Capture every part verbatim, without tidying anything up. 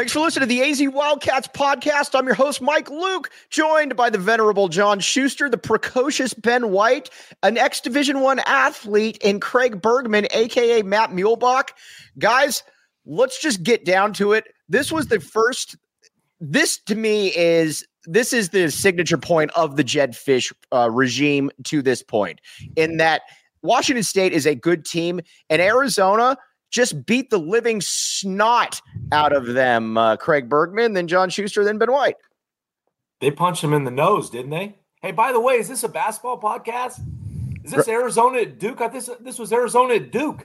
Thanks for listening to the A Z Wildcats podcast. I'm your host, Mike Luke, joined by the venerable John Schuster, the precocious Ben White, an ex-Division One athlete, and Craig Bergman, a k a. Matt Muehlbach. Guys, let's just get down to it. This was the first, this to me is, this is the signature point of the Jedd Fisch uh, regime to this point, in that Washington State is a good team, and Arizona just beat the living snot out of them. Uh, Craig Bergman, then John Schuster, then Ben White. They punched him in the nose, didn't they? Hey, by the way, is this a basketball podcast? Is this Arizona at Duke? I this this was Arizona at Duke.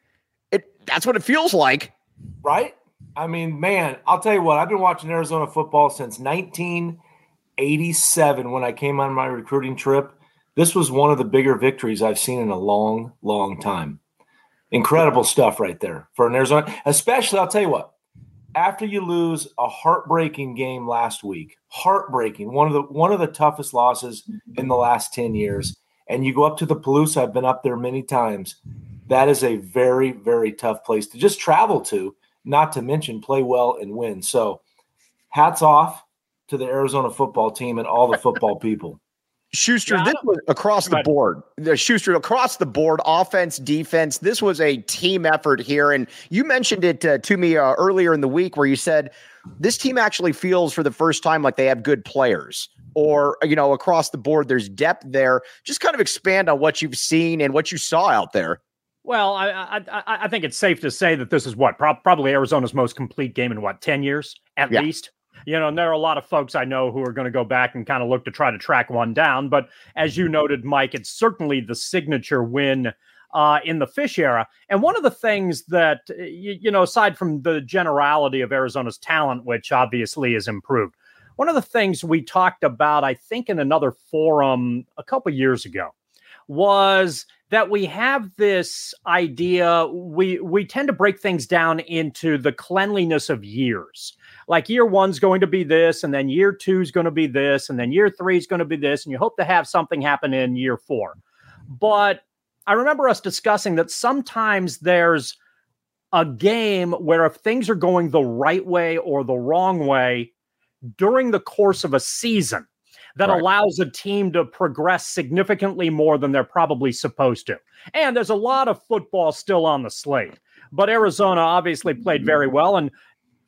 It that's what it feels like, right? I mean, man, I'll tell you what. I've been watching Arizona football since nineteen eighty-seven when I came on my recruiting trip. This was one of the bigger victories I've seen in a long, long time. Incredible stuff right there for an Arizona, especially, I'll tell you what, after you lose a heartbreaking game last week, heartbreaking, one of the one of the toughest losses in the last ten years, and you go up to the Palouse, I've been up there many times, that is a very, very tough place to just travel to, not to mention play well and win. So hats off to the Arizona football team and all the football people. Schuster, yeah, this was across the board. The Schuster, across the board, offense, defense. This was a team effort here. And you mentioned it uh, to me uh, earlier in the week where you said this team actually feels for the first time like they have good players, or, you know, across the board, there's depth there. Just kind of expand on what you've seen and what you saw out there. Well, I I, I think it's safe to say that this is what pro- probably Arizona's most complete game in what, ten years at yeah. least. You know, and there are a lot of folks I know who are going to go back and kind of look to try to track one down. But as you noted, Mike, it's certainly the signature win uh, in the Fisch era. And one of the things that, you, you know, aside from the generality of Arizona's talent, which obviously is improved, one of the things we talked about, I think, in another forum a couple years ago, was that we have this idea, we we tend to break things down into the cleanliness of years. Like year one's going to be this, and then year two's going to be this, and then year three's going to be this, and you hope to have something happen in year four. But I remember us discussing that sometimes there's a game where if things are going the right way or the wrong way during the course of a season, that right. allows a team to progress significantly more than they're probably supposed to. And there's a lot of football still on the slate. But Arizona obviously played very well. And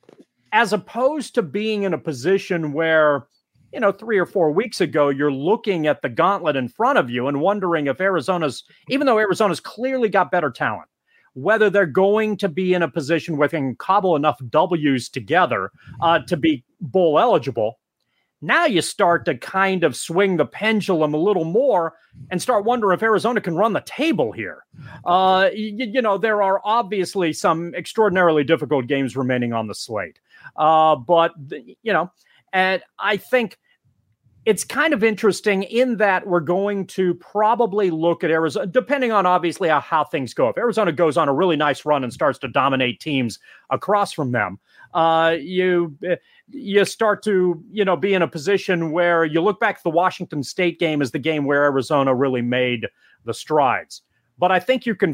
as opposed to being in a position where, you know, three or four weeks ago, you're looking at the gauntlet in front of you and wondering if Arizona's, even though Arizona's clearly got better talent, whether they're going to be in a position where they can cobble enough W's together uh, to be bowl eligible. Now you start to kind of swing the pendulum a little more and start wondering if Arizona can run the table here. Uh, you, you know, there are obviously some extraordinarily difficult games remaining on the slate. Uh, but, you know, and I think it's kind of interesting in that we're going to probably look at Arizona, depending on obviously how, how things go. If Arizona goes on a really nice run and starts to dominate teams across from them, uh, you you start to, you know, be in a position where you look back at the Washington State game as the game where Arizona really made the strides. But I think you can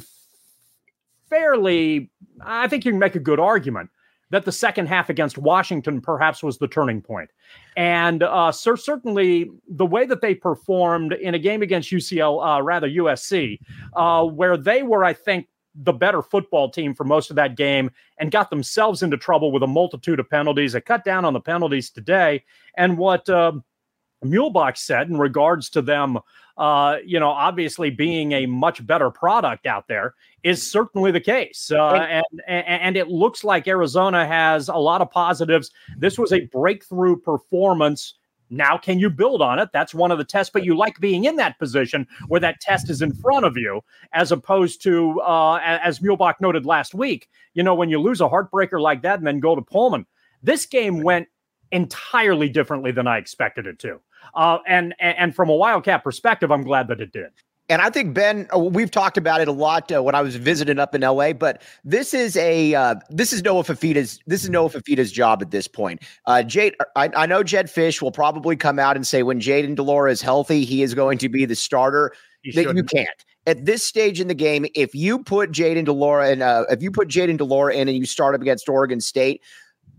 fairly, I think you can make a good argument that the second half against Washington perhaps was the turning point. And uh, cer- certainly the way that they performed in a game against U C L, uh, rather U S C, uh, where they were, I think, the better football team for most of that game and got themselves into trouble with a multitude of penalties. They cut down on the penalties today. And what uh, Muehlbach said in regards to them, uh, you know, obviously being a much better product out there is certainly the case. Uh, and, and, and it looks like Arizona has a lot of positives. This was a breakthrough performance. Now, can you build on it? That's one of the tests, but you like being in that position where that test is in front of you, as opposed to, uh, as Muehlbach noted last week, you know, when you lose a heartbreaker like that and then go to Pullman, this game went entirely differently than I expected it to. Uh, and, and from a Wildcat perspective, I'm glad that it did. And I think, Ben, we've talked about it a lot uh, when I was visiting up in L A, but this is a uh, this is Noah Fifita's this is Noah Fifita's job at this point. Uh, Jade, I, I know Jedd Fisch will probably come out and say when Jayden de Laura is healthy, he is going to be the starter. That you can't. At this stage in the game, if you put Jayden de Laura in, uh, if you put Jayden de Laura in and you start up against Oregon State,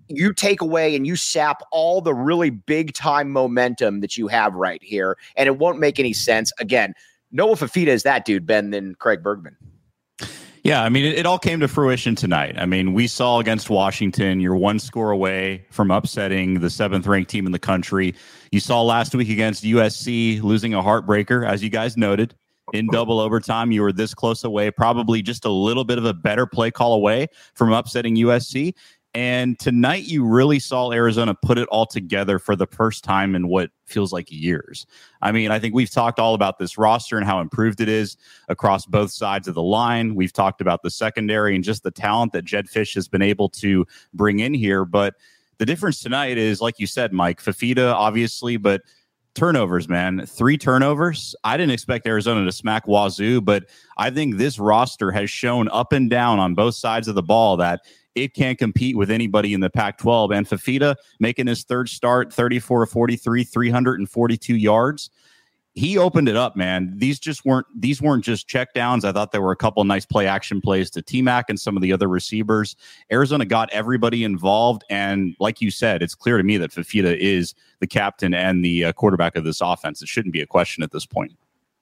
you take away and you sap all the really big time momentum that you have right here, and it won't make any sense. Again, Noah Fifita is that dude, Ben, than Craig Bergman. Yeah, I mean, it, it all came to fruition tonight. I mean, we saw against Washington, you're one score away from upsetting the seventh ranked team in the country. You saw last week against U S C losing a heartbreaker, as you guys noted, in double overtime. You were this close away, probably just a little bit of a better play call away from upsetting U S C. And tonight you really saw Arizona put it all together for the first time in what feels like years. I mean, I think we've talked all about this roster and how improved it is across both sides of the line. We've talked about the secondary and just the talent that Jedd Fisch has been able to bring in here. But the difference tonight is, like you said, Mike, Fifita, obviously, but turnovers, man. Three turnovers. I didn't expect Arizona to smack Wazoo, but I think this roster has shown up and down on both sides of the ball that it can't compete with anybody in the Pac twelve. And Fifita making his third start, thirty-four forty-three, three hundred forty-two yards. He opened it up, man. These just weren't these weren't just check downs. I thought there were a couple of nice play action plays to T-Mac and some of the other receivers. Arizona got everybody involved. And like you said, it's clear to me that Fifita is the captain and the uh, quarterback of this offense. It shouldn't be a question at this point.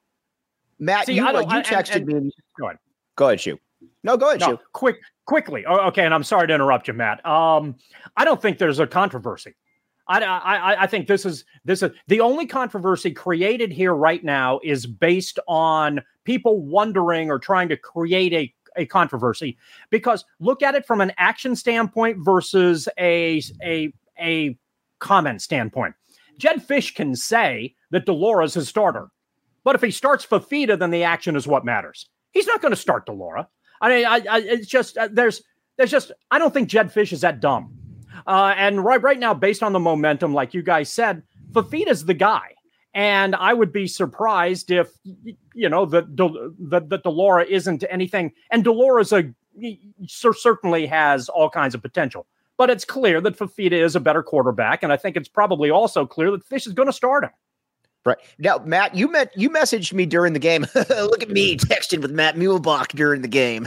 Matt, See, you, I uh, don't- you I- and- texted and- me. Go ahead. Go ahead, Shu. No, go ahead, No, Shu. quick, quickly. Oh, okay, and I'm sorry to interrupt you, Matt. Um, I don't think there's a controversy. I, I, I think this is this is the only controversy created here right now is based on people wondering or trying to create a, a controversy, because look at it from an action standpoint versus a a a comment standpoint. Jedd Fisch can say that de Laura is his starter, but if he starts Fifita, then the action is what matters. He's not going to start de Laura. I mean, I, I, it's just uh, there's there's just I don't think Jedd Fisch is that dumb. Uh, and right right now, based on the momentum, like you guys said, Fifita's the guy. And I would be surprised if, you know, that that de Laura isn't anything. And de Laura's a certainly has all kinds of potential. But it's clear that Fifita is a better quarterback. And I think it's probably also clear that Fisch is going to start him. Right. Now, Matt, you met you messaged me during the game. Look at me texting with Matt Muehlbach during the game.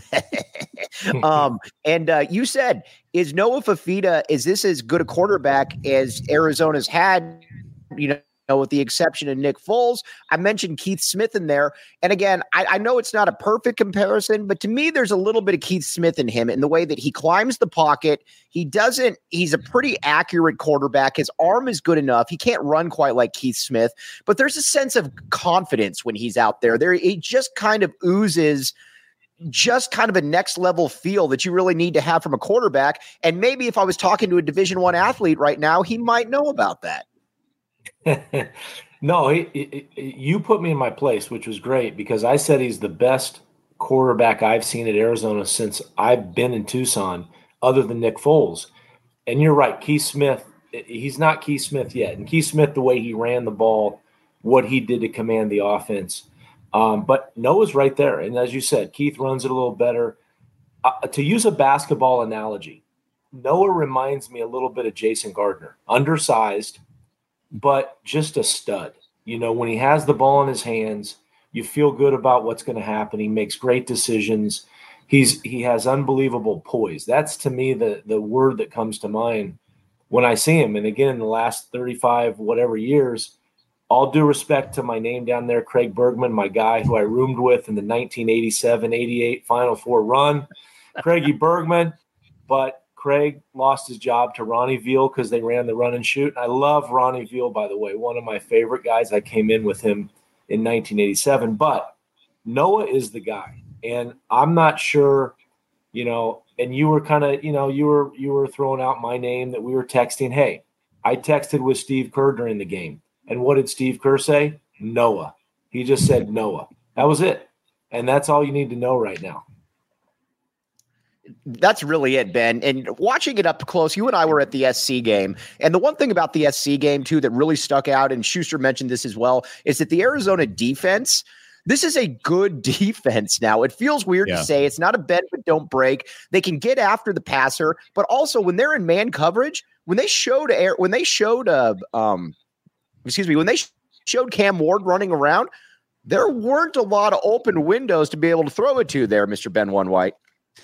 um, and uh, you said, is Noah Fifita, is this as good a quarterback as Arizona's had, you know, with the exception of Nick Foles? I mentioned Keith Smith in there. And again, I, I know it's not a perfect comparison, but to me, there's a little bit of Keith Smith in him in the way that he climbs the pocket. He doesn't, he's a pretty accurate quarterback. His arm is good enough. He can't run quite like Keith Smith, but there's a sense of confidence when he's out there. There, he just kind of oozes just kind of a next level feel that you really need to have from a quarterback. And maybe if I was talking to a Division One athlete right now, he might know about that. No, he, he, you put me in my place, which was great, because I said he's the best quarterback I've seen at Arizona since I've been in Tucson, other than Nick Foles. And you're right, Keith Smith, he's not Keith Smith yet. And Keith Smith, the way he ran the ball, what he did to command the offense. Um, but Noah's right there. And as you said, Keith runs it a little better. Uh, to use a basketball analogy, Noah reminds me a little bit of Jason Gardner, undersized, but just a stud. You know, when he has the ball in his hands, you feel good about what's going to happen. He makes great decisions. He's he has unbelievable poise. That's, to me, the the word that comes to mind when I see him. And again, in the last thirty-five whatever years, all due respect to my name down there, Craig Bergman, my guy who I roomed with in the nineteen eighty-seven eighty-eight Final Four run, Craigie Bergman, but Craig lost his job to Ronnie Veal because they ran the run and shoot. I love Ronnie Veal, by the way, one of my favorite guys. I came in with him in nineteen eighty-seven. But Noah is the guy, and I'm not sure, you know. And you were kind of, you know, you were you were throwing out my name that we were texting. Hey, I texted with Steve Kerr during the game, and what did Steve Kerr say? Noah. He just said Noah. That was it, and that's all you need to know right now. That's really it, Ben. And watching it up close, you and I were at the S C game. And the one thing about the S C game, too, that really stuck out, and Schuster mentioned this as well, is that the Arizona defense, this is a good defense now. It feels weird yeah. to say. It's not a bend but don't break. They can get after the passer, but also when they're in man coverage, when they showed air, when they showed uh, um, excuse me, when they showed Cam Ward running around, there weren't a lot of open windows to be able to throw it to there, Mister Ben One White.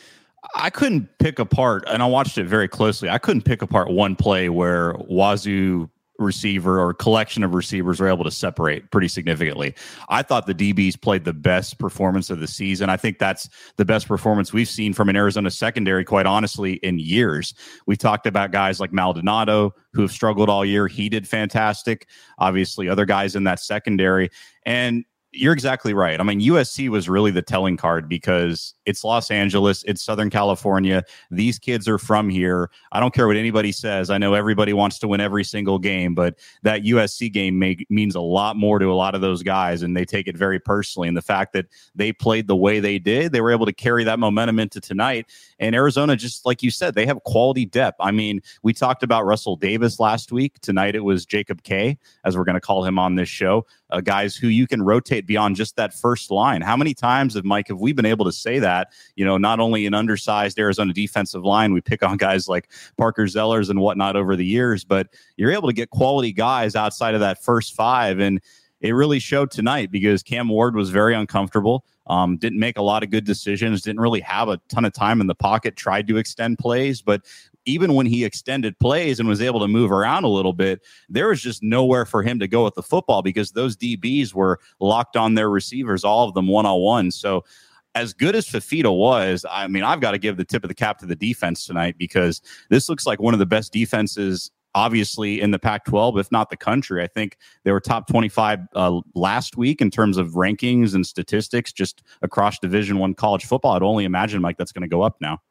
I couldn't pick apart, and I watched it very closely. I couldn't pick apart one play where Wazoo receiver or collection of receivers were able to separate pretty significantly. I thought the D Bs played the best performance of the season. I think that's the best performance we've seen from an Arizona secondary, quite honestly, in years. We talked about guys like Maldonado who have struggled all year. He did fantastic. Obviously, other guys in that secondary. And you're exactly right. I mean, U S C was really the telling card because it's Los Angeles, it's Southern California. These kids are from here. I don't care what anybody says. I know everybody wants to win every single game, but that U S C game make, means a lot more to a lot of those guys, and they take it very personally. And the fact that they played the way they did, they were able to carry that momentum into tonight. And Arizona, just like you said, they have quality depth. I mean, we talked about Russell Davis last week. Tonight it was Jacob K, as we're going to call him on this show. Uh, guys who you can rotate beyond just that first line. How many times have, Mike, have we been able to say that, you know, not only an undersized Arizona defensive line, we pick on guys like Parker Zellers and whatnot over the years, but you're able to get quality guys outside of that first five. And it really showed tonight because Cam Ward was very uncomfortable, um, didn't make a lot of good decisions, didn't really have a ton of time in the pocket, tried to extend plays, but even when he extended plays and was able to move around a little bit, there was just nowhere for him to go with the football because those D Bs were locked on their receivers, all of them one-on-one. So as good as Fifita was, I mean, I've got to give the tip of the cap to the defense tonight because this looks like one of the best defenses, obviously, in the Pac twelve, if not the country. I think they were top twenty-five uh, last week in terms of rankings and statistics just across Division One college football. I'd only imagine, Mike, that's going to go up now.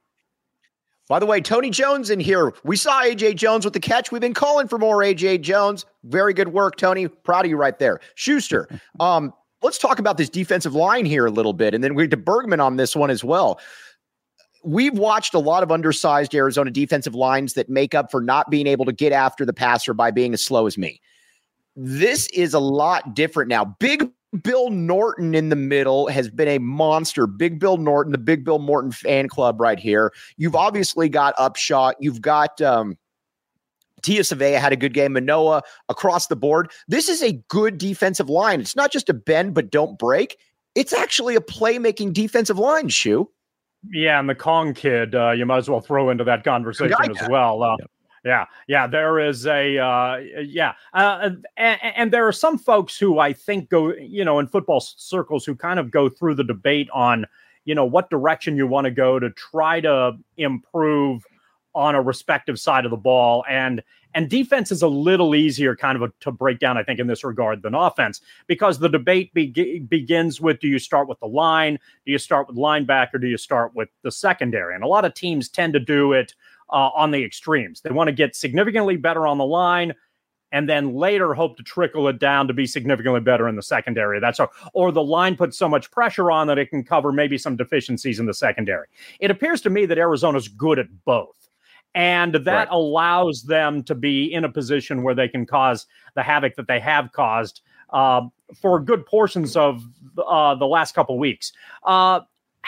By the way, Tony Jones in here. We saw A J Jones with the catch. We've been calling for more A J Jones. Very good work, Tony. Proud of you right there. Schuster, um, let's talk about this defensive line here a little bit, and then we're to Bergman on this one as well. We've watched a lot of undersized Arizona defensive lines that make up for not being able to get after the passer by being as slow as me. This is a lot different now. Big Bill Norton in the middle has been a monster. Big Bill Norton, the Big Bill Morton fan club right here. You've obviously got Upshot. You've got um, Tia Savea had a good game. Manoa across the board. This is a good defensive line. It's not just a bend but don't break. It's actually a playmaking defensive line, Shu. Yeah, and the Kong kid, uh, you might as well throw into that conversation as well. Uh, yep. Yeah, yeah, there is a, uh, yeah. Uh, and, and there are some folks who I think go, you know, in football circles who kind of go through the debate on, you know, what direction you want to go to try to improve on a respective side of the ball. And and defense is a little easier kind of a, to break down, I think, in this regard than offense, because the debate be- begins with, do you start with the line? Do you start with linebacker? Do you start with the secondary? And a lot of teams tend to do it Uh, on the extremes. They want to get significantly better on the line and then later hope to trickle it down to be significantly better in the secondary. That's all. Or the line puts so much pressure on that it can cover maybe some deficiencies in the secondary. It appears to me that Arizona's good at both. And that right. allows them to be in a position where they can cause the havoc that they have caused uh, for good portions of uh, the last couple weeks. Uh,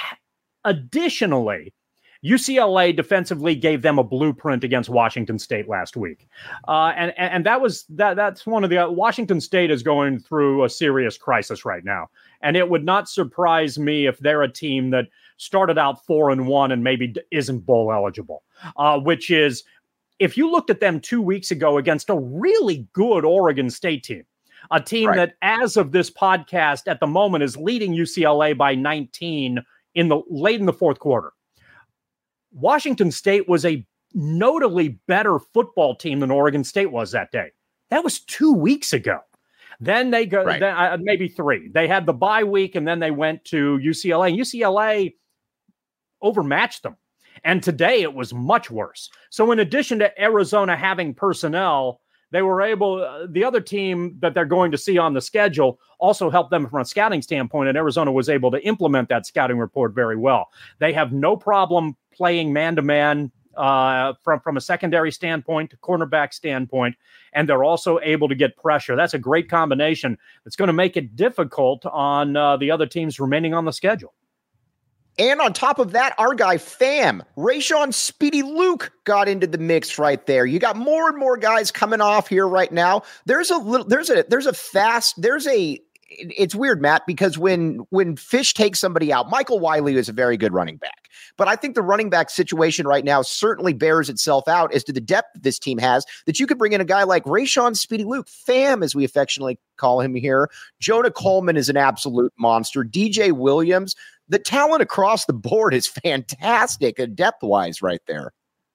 additionally, U C L A defensively gave them a blueprint against Washington State last week. Uh, and, and that was that. That's one of the uh, Washington State is going through a serious crisis right now. And it would not surprise me if they're a team that started out four and one and maybe isn't bowl eligible, uh, which is, if you looked at them two weeks ago against a really good Oregon State team, a team right. that as of this podcast at the moment is leading U C L A by nineteen in the late in the fourth quarter. Washington State was a notably better football team than Oregon State was that day. That was two weeks ago. Then they go, right. then, uh, maybe three. They had the bye week, and then they went to U C L A. U C L A overmatched them. And today it was much worse. So in addition to Arizona having personnel, they were able, uh, the other team that they're going to see on the schedule also helped them from a scouting standpoint, and Arizona was able to implement that scouting report very well. They have no problem playing man-to-man uh, from, from a secondary standpoint, cornerback standpoint, and they're also able to get pressure. That's a great combination. It's going to make it difficult on uh, the other teams remaining on the schedule. And on top of that, our guy Fam, Rayshon Speedy Luke got into the mix right there. You got more and more guys coming off here right now. There's a little, there's a, there's a fast, there's a it's weird, Matt, because when when Fish takes somebody out, Michael Wiley is a very good running back. But I think the running back situation right now certainly bears itself out as to the depth this team has, that you could bring in a guy like Rayshon Speedy Luke, Fam, as we affectionately call him here. Jonah Coleman is an absolute monster. D J Williams, the talent across the board is fantastic, uh, depth-wise right there.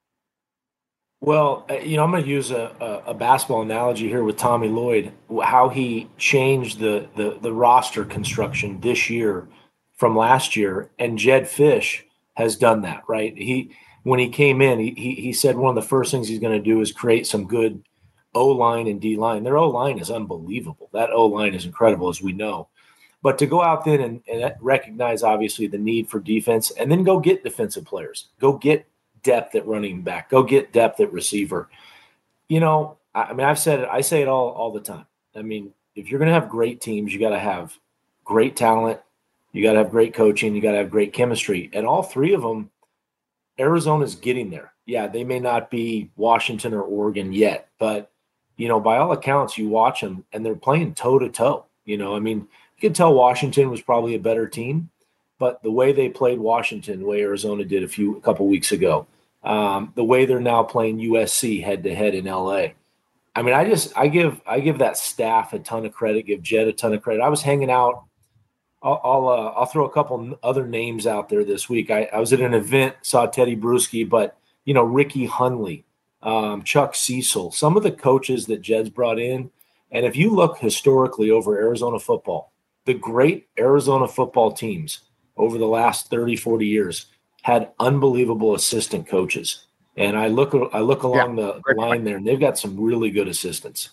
Well, you know, I'm going to use a, a, a basketball analogy here with Tommy Lloyd, how he changed the, the the roster construction this year from last year, and Jedd Fisch has done that, right? He when he came in, he he, he said one of the first things he's going to do is create some good O-line and D-line. Their O-line is unbelievable. That O-line is incredible, as we know. But to go out there and, and recognize, obviously, the need for defense, and then go get defensive players, go get depth at running back, go get depth at receiver. You know, I, I mean, I've said it, I say it all, all the time. I mean, if you're going to have great teams, you got to have great talent, you got to have great coaching, you got to have great chemistry. And all three of them, Arizona's getting there. Yeah, they may not be Washington or Oregon yet, but, you know, by all accounts, you watch them and they're playing toe to toe. You know, I mean, you could tell Washington was probably a better team, but the way they played Washington, the way Arizona did a few a couple weeks ago, um, the way they're now playing U S C head to head in L A. I mean, I just I give I give that staff a ton of credit, give Jed a ton of credit. I was hanging out. I'll I'll, uh, I'll throw a couple other names out there this week. I, I was at an event, saw Teddy Bruschi, but you know, Ricky Hunley, um, Chuck Cecil, some of the coaches that Jed's brought in. And if you look historically over Arizona football, the great Arizona football teams over the last thirty, forty years had unbelievable assistant coaches. And I look I look along yeah, the line point. there, and they've got some really good assistants.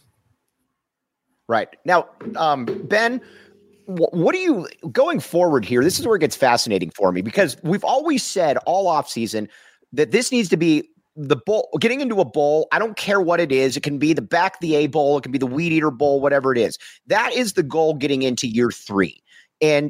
Right. Now, um, Ben, wh- what do you – going forward here, this is where it gets fascinating for me, because we've always said all offseason that this needs to be the bowl, getting into a bowl. I don't care what it is. It can be the Back the A Bowl. It can be the Weed Eater Bowl, whatever it is. That is the goal getting into year three. And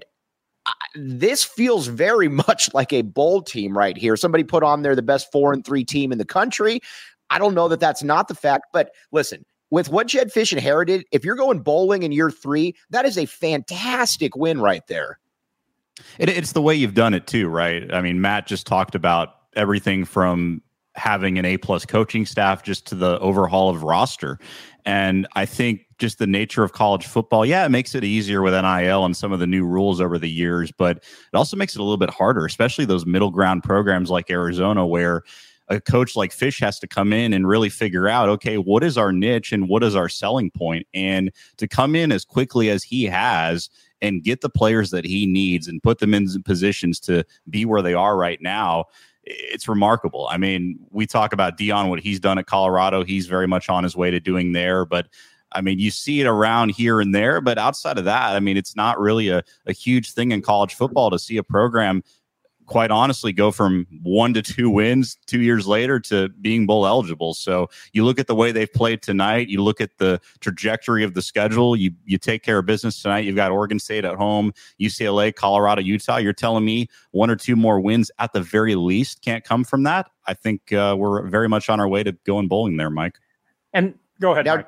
this feels very much like a bowl team right here. Somebody put on there the best four and three team in the country. I don't know that that's not the fact, but listen, with what Jedd Fisch inherited, if you're going bowling in year three, that is a fantastic win right there. It, it's the way you've done it too, right? I mean, Matt just talked about everything from having an A-plus coaching staff just to the overhaul of roster. And I think just the nature of college football, yeah, it makes it easier with N I L and some of the new rules over the years, but it also makes it a little bit harder, especially those middle ground programs like Arizona, where a coach like Fisch has to come in and really figure out, okay, what is our niche and what is our selling point? And to come in as quickly as he has and get the players that he needs and put them in positions to be where they are right now, it's remarkable. I mean, we talk about Deion, what he's done at Colorado. He's very much on his way to doing there. But, I mean, you see it around here and there. But outside of that, I mean, it's not really a, a huge thing in college football to see a program, quite honestly, go from one to two wins two years later to being bowl eligible. So you look at the way they've played tonight. You look at the trajectory of the schedule. You you take care of business tonight. You've got Oregon State at home, U C L A, Colorado, Utah. You're telling me one or two more wins at the very least can't come from that? I think uh, we're very much on our way to going bowling there, Mike. And go ahead, now, Mike.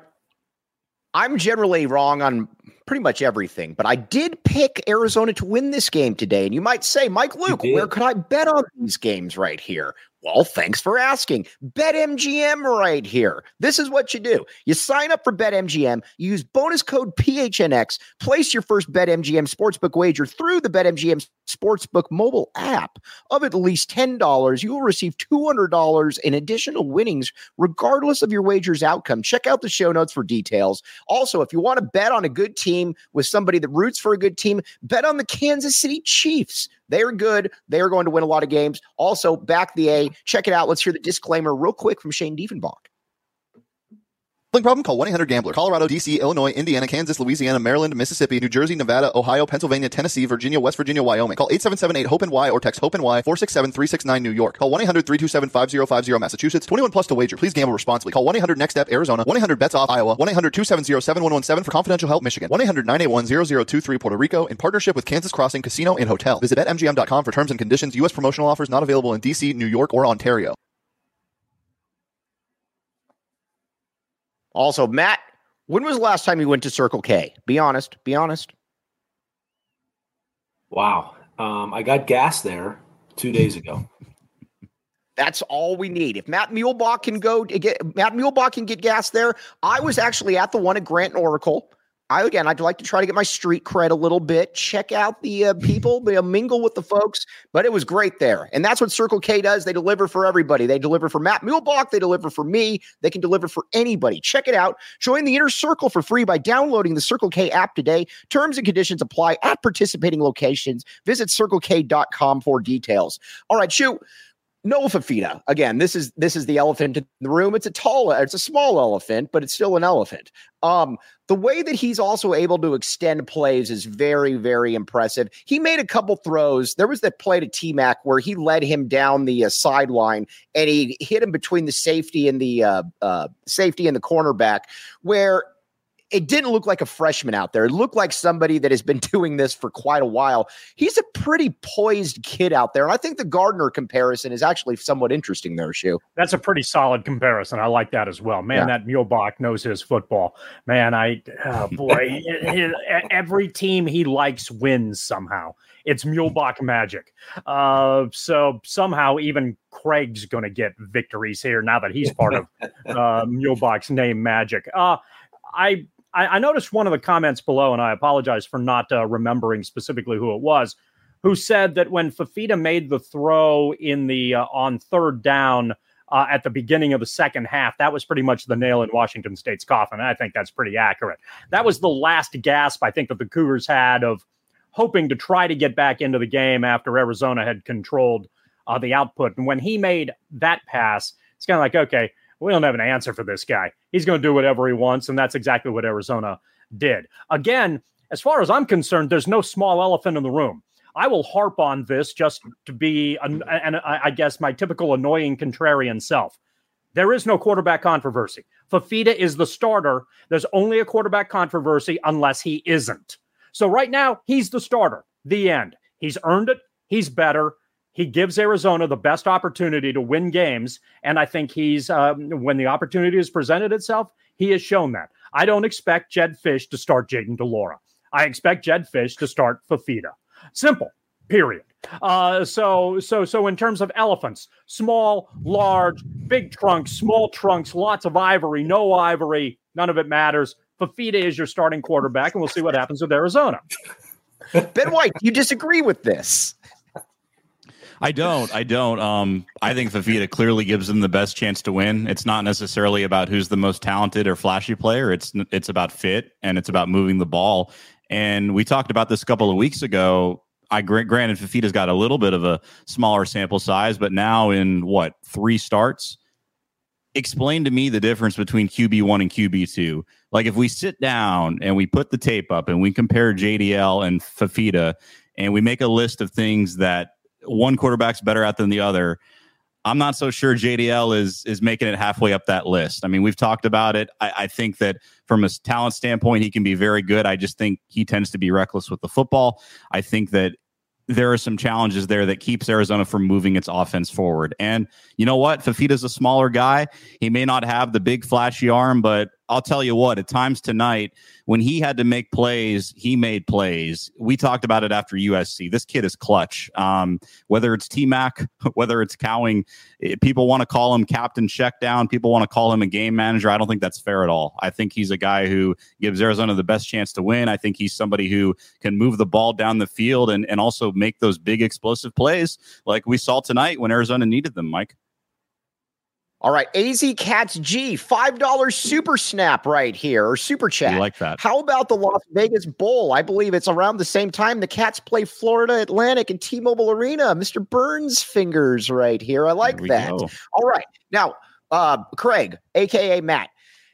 I'm generally wrong on pretty much everything, but I did pick Arizona to win this game today. And you might say, Mike Luke, where could I bet on these games right here? Well, thanks for asking. BetMGM right here. This is what you do. You sign up for BetMGM, you use bonus code P H N X, place your first BetMGM sportsbook wager through the BetMGM Sportsbook mobile app of at least ten dollars. You will receive two hundred dollars in additional winnings, regardless of your wager's outcome. Check out the show notes for details. Also, if you want to bet on a good team with somebody that roots for a good team, bet on the Kansas City Chiefs. They're good. They're going to win a lot of games. Also, Back the A. Check it out. Let's hear the disclaimer real quick from Shane Diefenbach. Gambling problem? Call one eight hundred gambler. Colorado, D C, Illinois, Indiana, Kansas, Louisiana, Maryland, Mississippi, New Jersey, Nevada, Ohio, Pennsylvania, Tennessee, Virginia, West Virginia, Wyoming. Call eight seven seven eight hope N Y or text HOPE-NY four six seven three six nine New York. Call one eight hundred three two seven five zero five zero Massachusetts. twenty-one plus to wager. Please gamble responsibly. Call one eight hundred next step Arizona. one eight hundred bets off Iowa. one eight hundred two seven zero seven one one seven for confidential help Michigan. one eight hundred nine eight one zero zero two three Puerto Rico in partnership with Kansas Crossing Casino and Hotel. Visit bet M G M dot com for terms and conditions. U S promotional offers not available in D C, New York, or Ontario. Also, Matt, when was the last time you went to Circle K? Be honest. Be honest. Wow. Um, I got gas there two days ago. That's all we need. If Matt Muehlbach can go get Matt Muehlbach can get gas there. I was actually at the one at Grant and Oracle. I again, I'd like to try to get my street cred a little bit. Check out the uh, people, they mingle with the folks. But it was great there, and that's what Circle K does. They deliver for everybody. They deliver for Matt Muehlbach. They deliver for me. They can deliver for anybody. Check it out. Join the Inner Circle for free by downloading the Circle K app today. Terms and conditions apply at participating locations. Visit circle k dot com for details. All right, shoot. Noah Fifita. Again, this is this is the elephant in the room. It's a tall, it's a small elephant, but it's still an elephant. Um, the way that he's also able to extend plays is very, very impressive. He made a couple throws. There was that play to T-Mac where he led him down the uh, sideline and he hit him between the safety and the uh, uh, safety and the cornerback, where it didn't look like a freshman out there. It looked like somebody that has been doing this for quite a while. He's a pretty poised kid out there. And I think the Gardner comparison is actually somewhat interesting there, Shu. That's a pretty solid comparison. I like that as well. Man, yeah. That Muehlbach knows his football. Man, I, oh boy, every team he likes wins somehow. It's Muehlbach magic. Uh, so somehow even Craig's going to get victories here now that he's part of uh, Muehlbach's name magic. Uh, I, I noticed one of the comments below, and I apologize for not uh, remembering specifically who it was, who said that when Fifita made the throw in the uh, on third down uh, at the beginning of the second half, that was pretty much the nail in Washington State's coffin. And I think that's pretty accurate. That was the last gasp I think that the Cougars had of hoping to try to get back into the game after Arizona had controlled uh, the output. And when he made that pass, it's kind of like, okay, we don't have an answer for this guy. He's going to do whatever he wants, and that's exactly what Arizona did. Again, as far as I'm concerned, there's no small elephant in the room. I will harp on this just to be, an, an, I guess, my typical annoying contrarian self. There is no quarterback controversy. Fifita is the starter. There's only a quarterback controversy unless he isn't. So right now, he's the starter. The end. He's earned it. He's better. He gives Arizona the best opportunity to win games, and I think he's, um, when the opportunity has presented itself, he has shown that. I don't expect Jedd Fisch to start Jayden de Laura. I expect Jedd Fisch to start Fifita. Simple, period. Uh, so, so, so in terms of elephants, small, large, big trunks, small trunks, lots of ivory, no ivory, none of it matters. Fifita is your starting quarterback, and we'll see what happens with Arizona. Ben White, you disagree with this? I don't. I don't. Um, I think Fifita clearly gives them the best chance to win. It's not necessarily about who's the most talented or flashy player. It's it's about fit, and it's about moving the ball. And we talked about this a couple of weeks ago. I granted Fifita's got a little bit of a smaller sample size, but now in what, three starts? Explain to me the difference between Q B one and Q B two. Like if we sit down and we put the tape up and we compare J D L and Fifita and we make a list of things that one quarterback's better at than the other, I'm not so sure J D L is is making it halfway up that list. I mean, we've talked about it. I, I think that from a talent standpoint, he can be very good. I just think he tends to be reckless with the football. I think that there are some challenges there that keeps Arizona from moving its offense forward. And you know what? Fifita's a smaller guy. He may not have the big flashy arm, but I'll tell you what, at times tonight, when he had to make plays, he made plays. We talked about it after U S C. This kid is clutch. Um, whether it's T-Mac, whether it's Cowing, people want to call him Captain Checkdown. People want to call him a game manager. I don't think that's fair at all. I think he's a guy who gives Arizona the best chance to win. I think he's somebody who can move the ball down the field and, and also make those big explosive plays like we saw tonight when Arizona needed them, Mike. All right, A Z Cats G, five dollars super snap right here, or super chat. I like that. How about the Las Vegas Bowl? I believe it's around the same time the Cats play Florida Atlantic and T-Mobile Arena. Mister Burns fingers right here. I like that. Go. All right. Now, uh, Craig, a k a. Matt.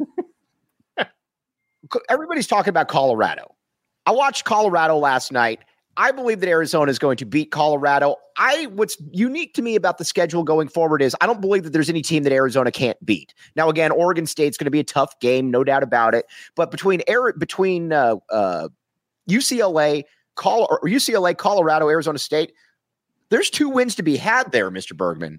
Everybody's talking about Colorado. I watched Colorado last night. I believe that Arizona is going to beat Colorado. I what's unique to me about the schedule going forward is I don't believe that there's any team that Arizona can't beat. Now, again, Oregon State's going to be a tough game, no doubt about it. But between between uh, uh, U C L A, Col- or U C L A, Colorado, Arizona State, there's two wins to be had there, Mister Bergman.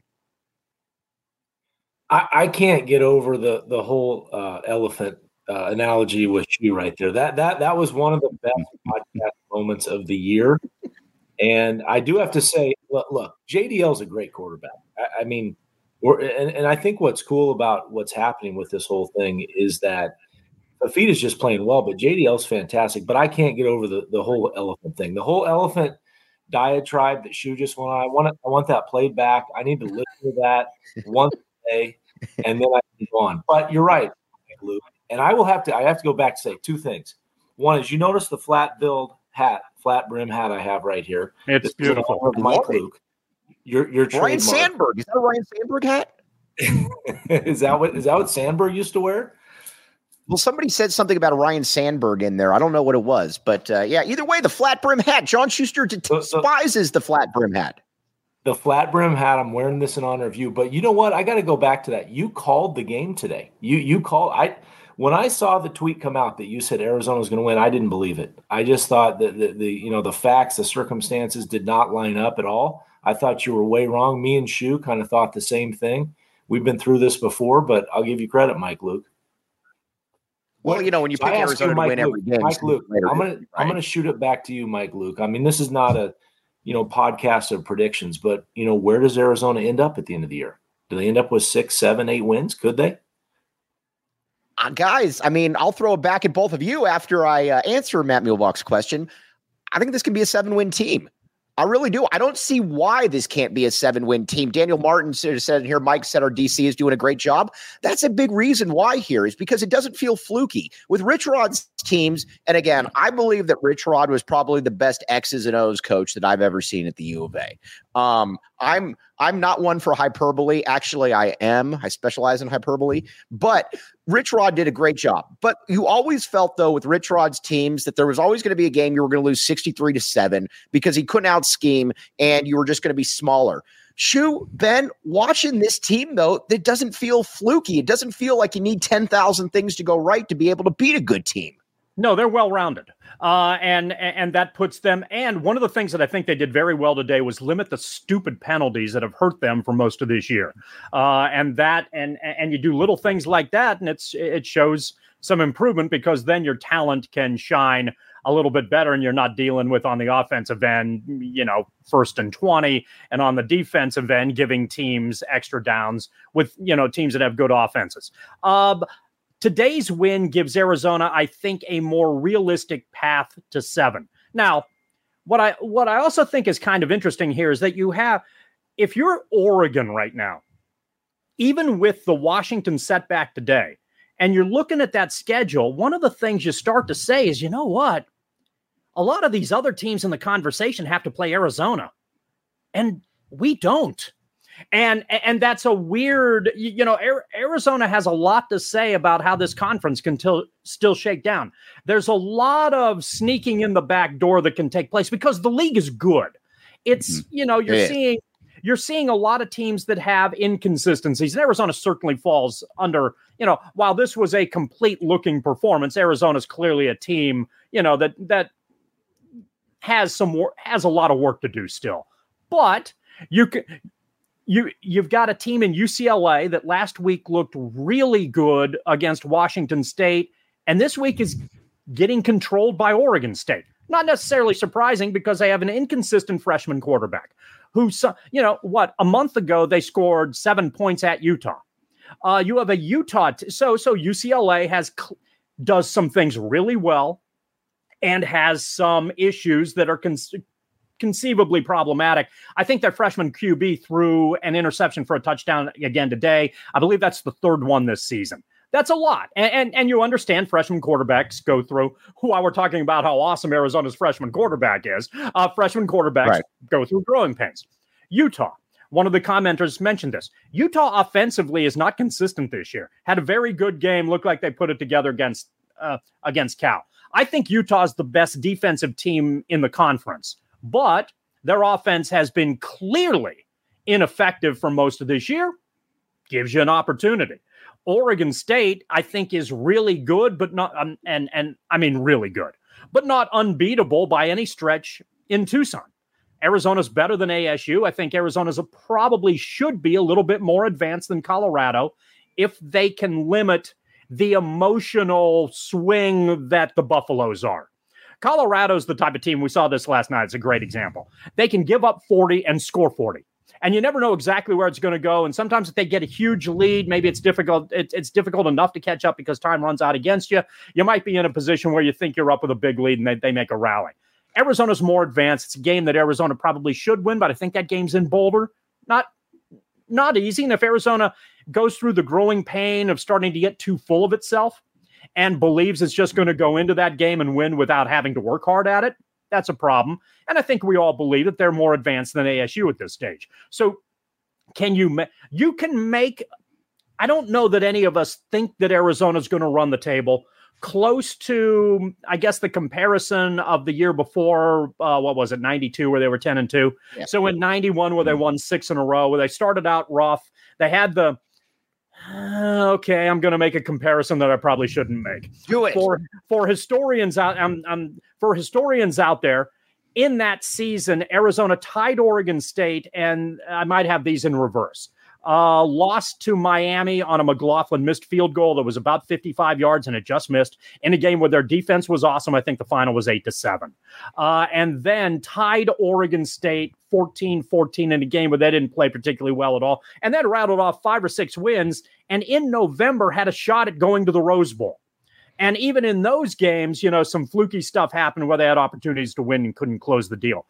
I, I can't get over the the whole uh, elephant Uh, analogy with you right there. That that that was one of the best podcast moments of the year. And I do have to say, look, look J D L is a great quarterback. I, I mean, we're, and, and I think what's cool about what's happening with this whole thing is that Fafita is just playing well, but J D L is fantastic. But I can't get over the, the whole elephant thing. The whole elephant diatribe that Shu just went on. I want it, I want that played back. I need to listen to that once a day, and then I can go on. But you're right, Luke. And I will have to. I have to go back to say two things. One is you notice the flat build hat, flat brim hat I have right here. It's this beautiful. Of Mike Luke. Your your Ryan trademark. Sandberg. Is that a Ryan Sandberg hat? is that what is that what Sandberg used to wear? Well, somebody said something about a Ryan Sandberg in there. I don't know what it was, but uh, yeah, either way, the flat brim hat. John Schuster despises the flat brim hat. The flat brim hat. I'm wearing this in honor of you. But you know what? I got to go back to that. You called the game today. You you called. I when I saw the tweet come out that you said Arizona was going to win, I didn't believe it. I just thought that the, the you know the facts, the circumstances did not line up at all. I thought you were way wrong. Me and Shu kind of thought the same thing. We've been through this before, but I'll give you credit, Mike Luke. Well, you know, when you pick Arizona you, to win Luke, every game, Mike Luke, later, I'm gonna right? I'm gonna shoot it back to you, Mike Luke. I mean, this is not a you know podcast of predictions, but you know, where does Arizona end up at the end of the year? Do they end up with six, seven, eight wins? Could they? Uh, guys, I mean, I'll throw it back at both of you after I uh, answer Matt Muehlbach's question. I think this can be a seven-win team. I really do. I don't see why this can't be a seven-win team. Daniel Martin said here, Mike said our D C is doing a great job. That's a big reason why here is because it doesn't feel fluky. With Rich Rod's teams, and again, I believe that Rich Rod was probably the best X's and O's coach that I've ever seen at the U of A. Um, I'm I'm not one for hyperbole. Actually, I am. I specialize in hyperbole. But Rich Rod did a great job. But you always felt, though, with Rich Rod's teams that there was always going to be a game you were going to lose sixty-three to seven because he couldn't out scheme and you were just going to be smaller. Shu, Ben, watching this team, though, that doesn't feel fluky. It doesn't feel like you need ten thousand things to go right to be able to beat a good team. No, they're well-rounded, uh, and and that puts them. And one of the things that I think they did very well today was limit the stupid penalties that have hurt them for most of this year. Uh, and that, and and you do little things like that, and it's it shows some improvement because then your talent can shine a little bit better, and you're not dealing with on the offensive end, you know, first and twenty, and on the defensive end, giving teams extra downs with you know teams that have good offenses. Uh, Today's win gives Arizona, I think, a more realistic path to seven. Now, what I what I also think is kind of interesting here is that you have, if you're Oregon right now, even with the Washington setback today, and you're looking at that schedule, one of the things you start to say is, you know what? A lot of these other teams in the conversation have to play Arizona, and we don't. And and that's a weird, you know, Arizona has a lot to say about how this conference can till, still shake down. There's a lot of sneaking in the back door that can take place because the league is good. It's, mm-hmm. you know, you're yeah. seeing you're seeing a lot of teams that have inconsistencies. And Arizona certainly falls under, you know, while this was a complete looking performance, Arizona's clearly a team, you know, that that has some wor- has a lot of work to do still. But you can You, you've got a team in U C L A that last week looked really good against Washington State, and this week is getting controlled by Oregon State. Not necessarily surprising because they have an inconsistent freshman quarterback who, you know, what, a month ago they scored seven points at Utah. Uh, you have a Utah, t- so so U C L A has does some things really well and has some issues that are cons- conceivably problematic. I think their freshman Q B threw an interception for a touchdown again today. I believe that's the third one this season. That's a lot. And, and, and you understand freshman quarterbacks go through, while we're talking about how awesome Arizona's freshman quarterback is, uh, freshman quarterbacks right. go through growing pains. Utah, one of the commenters mentioned this. Utah offensively is not consistent this year. Had a very good game. Looked like they put it together against, uh, against Cal. I think Utah is the best defensive team in the conference. But their offense has been clearly ineffective for most of this year. Gives you an opportunity. Oregon State, I think, is really good, but not um, and and I mean really good, but not unbeatable by any stretch in Tucson. Arizona's better than A S U. I think Arizona's a, probably should be a little bit more advanced than Colorado if they can limit the emotional swing that the Buffaloes are. Colorado's the type of team, we saw this last night. It's a great example. They can give up forty and score forty. And you never know exactly where it's going to go. And sometimes if they get a huge lead, maybe it's difficult. It, it's difficult enough to catch up because time runs out against you. You might be in a position where you think you're up with a big lead and they, they make a rally. Arizona's more advanced. It's a game that Arizona probably should win, but I think that game's in Boulder. Not, not easy. And if Arizona goes through the growing pain of starting to get too full of itself and believes it's just going to go into that game and win without having to work hard at it, that's a problem. And I think we all believe that they're more advanced than A S U at this stage. So can you, ma- you can make, I don't know that any of us think that Arizona's going to run the table close to, I guess, the comparison of the year before, uh, what was it, ninety-two, where they were ten and two. Yeah. So in ninety-one, where they won six in a row, where they started out rough, they had the, uh, okay, I'm going to make a comparison that I probably shouldn't make. Do it. For, for historians out, um, um, for historians out there, in that season, Arizona tied Oregon State, and I might have these in reverse. Uh, lost to Miami on a McLaughlin missed field goal that was about fifty-five yards, and it just missed in a game where their defense was awesome. I think the final was eight to seven. Uh, and then tied Oregon State fourteen fourteen in a game where they didn't play particularly well at all. And then rattled off five or six wins, and in November had a shot at going to the Rose Bowl. And even in those games, you know, some fluky stuff happened where they had opportunities to win and couldn't close the deal.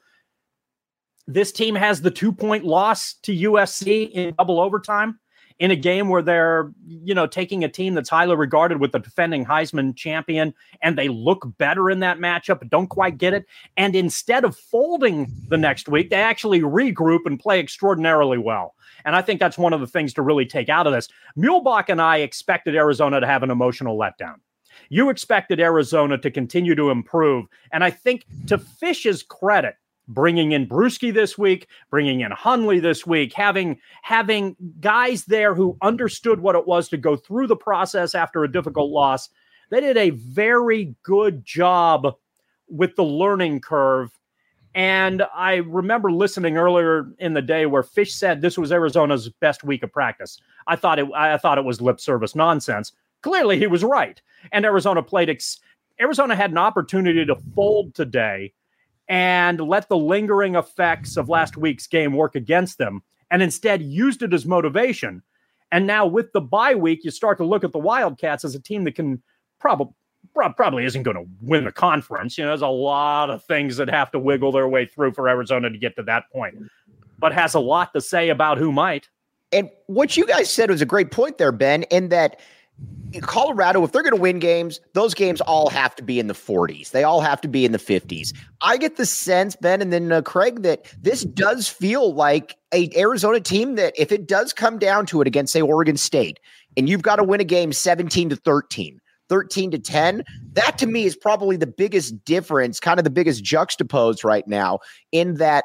This team has the two-point loss to U S C in double overtime in a game where they're, you know, taking a team that's highly regarded with the defending Heisman champion, and they look better in that matchup, but don't quite get it. And instead of folding the next week, they actually regroup and play extraordinarily well. And I think that's one of the things to really take out of this. Muehlbach and I expected Arizona to have an emotional letdown. You expected Arizona to continue to improve. And I think, to Fish's credit, bringing in Bruschi this week, bringing in Hundley this week, having having guys there who understood what it was to go through the process after a difficult loss, they did a very good job with the learning curve. And I remember listening earlier in the day where Fish said this was Arizona's best week of practice. I thought it I thought it was lip service nonsense. Clearly, he was right. And Arizona played ex- Arizona had an opportunity to fold today and let the lingering effects of last week's game work against them, and instead used it as motivation. And now with the bye week, you start to look at the Wildcats as a team that can probably probably isn't going to win the conference. You know, there's a lot of things that have to wiggle their way through for Arizona to get to that point, but has a lot to say about who might. And what you guys said was a great point there, Ben, in that Colorado, if they're going to win games, those games all have to be in the forties. They all have to be in the fifties. I get the sense, Ben, and then uh, Craig, that this does feel like a Arizona team that if it does come down to it against, say, Oregon State, and you've got to win a game seventeen to thirteen, thirteen to ten, that to me is probably the biggest difference, kind of the biggest juxtapose right now, in that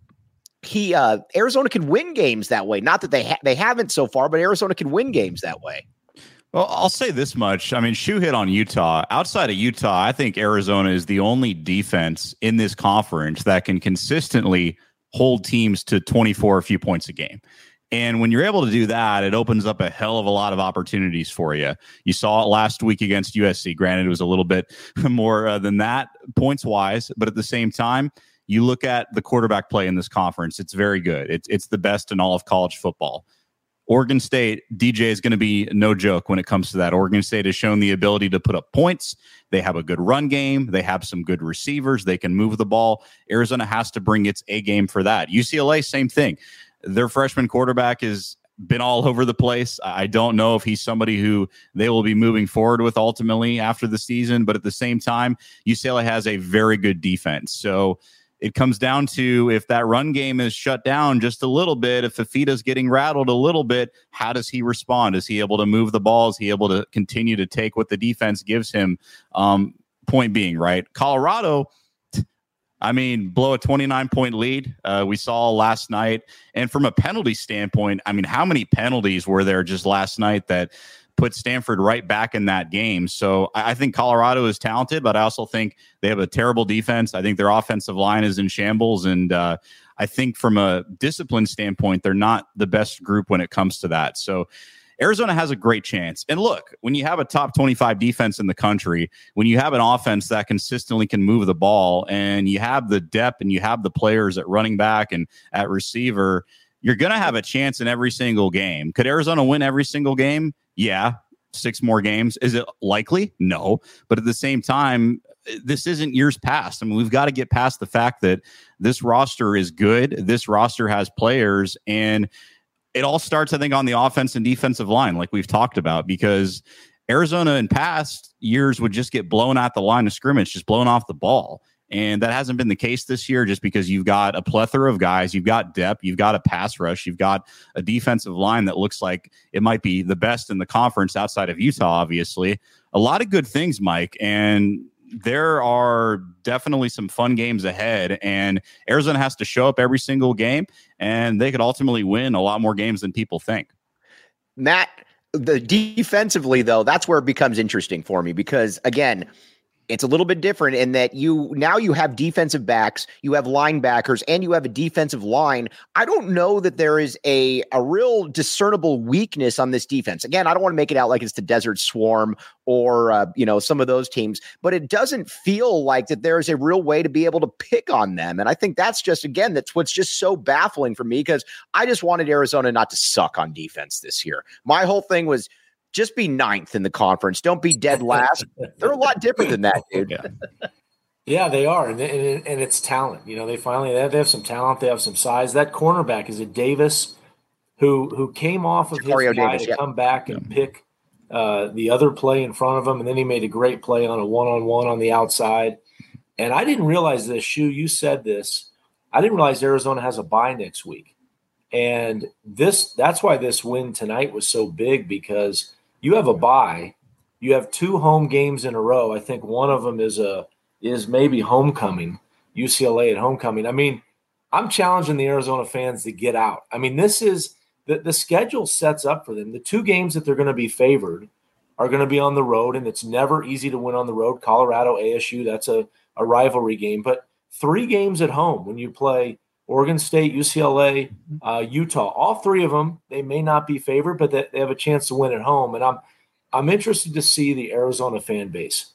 he uh, Arizona can win games that way. Not that they ha- they haven't so far, but Arizona can win games that way. Well, I'll say this much. I mean, Shu hit on Utah. Outside of Utah, I think Arizona is the only defense in this conference that can consistently hold teams to twenty-four a few points a game. And when you're able to do that, it opens up a hell of a lot of opportunities for you. You saw it last week against U S C. Granted, it was a little bit more uh, than that points-wise, but at the same time, you look at the quarterback play in this conference, it's very good. It's, it's the best in all of college football. Oregon State, D J is going to be no joke when it comes to that. Oregon State has shown the ability to put up points. They have a good run game. They have some good receivers. They can move the ball. Arizona has to bring its A game for that. U C L A, same thing. Their freshman quarterback has been all over the place. I don't know if he's somebody who they will be moving forward with ultimately after the season, but at the same time, U C L A has a very good defense. So it comes down to, if that run game is shut down just a little bit, if Fifita's getting rattled a little bit, how does he respond? Is he able to move the ball? Is he able to continue to take what the defense gives him? Um, point being, right? Colorado, I mean, blow a twenty-nine point lead. Uh, we saw last night. And from a penalty standpoint, I mean, how many penalties were there just last night that put Stanford right back in that game? So I, I think Colorado is talented, but I also think they have a terrible defense. I think their offensive line is in shambles. And uh, I think from a discipline standpoint, they're not the best group when it comes to that. So Arizona has a great chance. And look, when you have a top twenty-five defense in the country, when you have an offense that consistently can move the ball, and you have the depth and you have the players at running back and at receiver, you're going to have a chance in every single game. Could Arizona win every single game? Yeah. Six more games. Is it likely? No. But at the same time, this isn't years past. I mean, we've got to get past the fact that this roster is good. This roster has players, and it all starts, I think, on the offense and defensive line, like we've talked about, because Arizona in past years would just get blown at the line of scrimmage, just blown off the ball. And that hasn't been the case this year, just because you've got a plethora of guys, you've got depth, you've got a pass rush, you've got a defensive line that looks like it might be the best in the conference outside of Utah, obviously. A lot of good things, Mike, and there are definitely some fun games ahead, and Arizona has to show up every single game, and they could ultimately win a lot more games than people think. Matt, the defensively, though, that's where it becomes interesting for me, because, again, it's a little bit different in that you now you have defensive backs, you have linebackers, and you have a defensive line. I don't know that there is a, a real discernible weakness on this defense. Again, I don't want to make it out like it's the Desert Swarm or, uh, you know, some of those teams, but it doesn't feel like that there is a real way to be able to pick on them. And I think that's just, again, that's what's just so baffling for me, because I just wanted Arizona not to suck on defense this year. My whole thing was, just be ninth in the conference. Don't be dead last. They're a lot different than that, dude. Yeah, yeah they are. And, and, and it's talent. You know, they finally they have, they have some talent. They have some size. That cornerback is a Davis who who came off of Mario his guy Davis, to yeah. come back and pick uh, the other play in front of him. And then he made a great play on a one-on-one on the outside. And I didn't realize this, Shu, you said this. I didn't realize Arizona has a bye next week. And this that's why this win tonight was so big, because – you have a bye. You have two home games in a row. I think one of them is a is maybe homecoming, U C L A at homecoming. I mean, I'm challenging the Arizona fans to get out. I mean, this is the, the schedule sets up for them. The two games that they're going to be favored are going to be on the road, and it's never easy to win on the road. Colorado, A S U, that's a, a rivalry game. But three games at home when you play Oregon State, U C L A, uh, Utah, all three of them, they may not be favored, but they, they have a chance to win at home. And I'm I'm interested to see the Arizona fan base.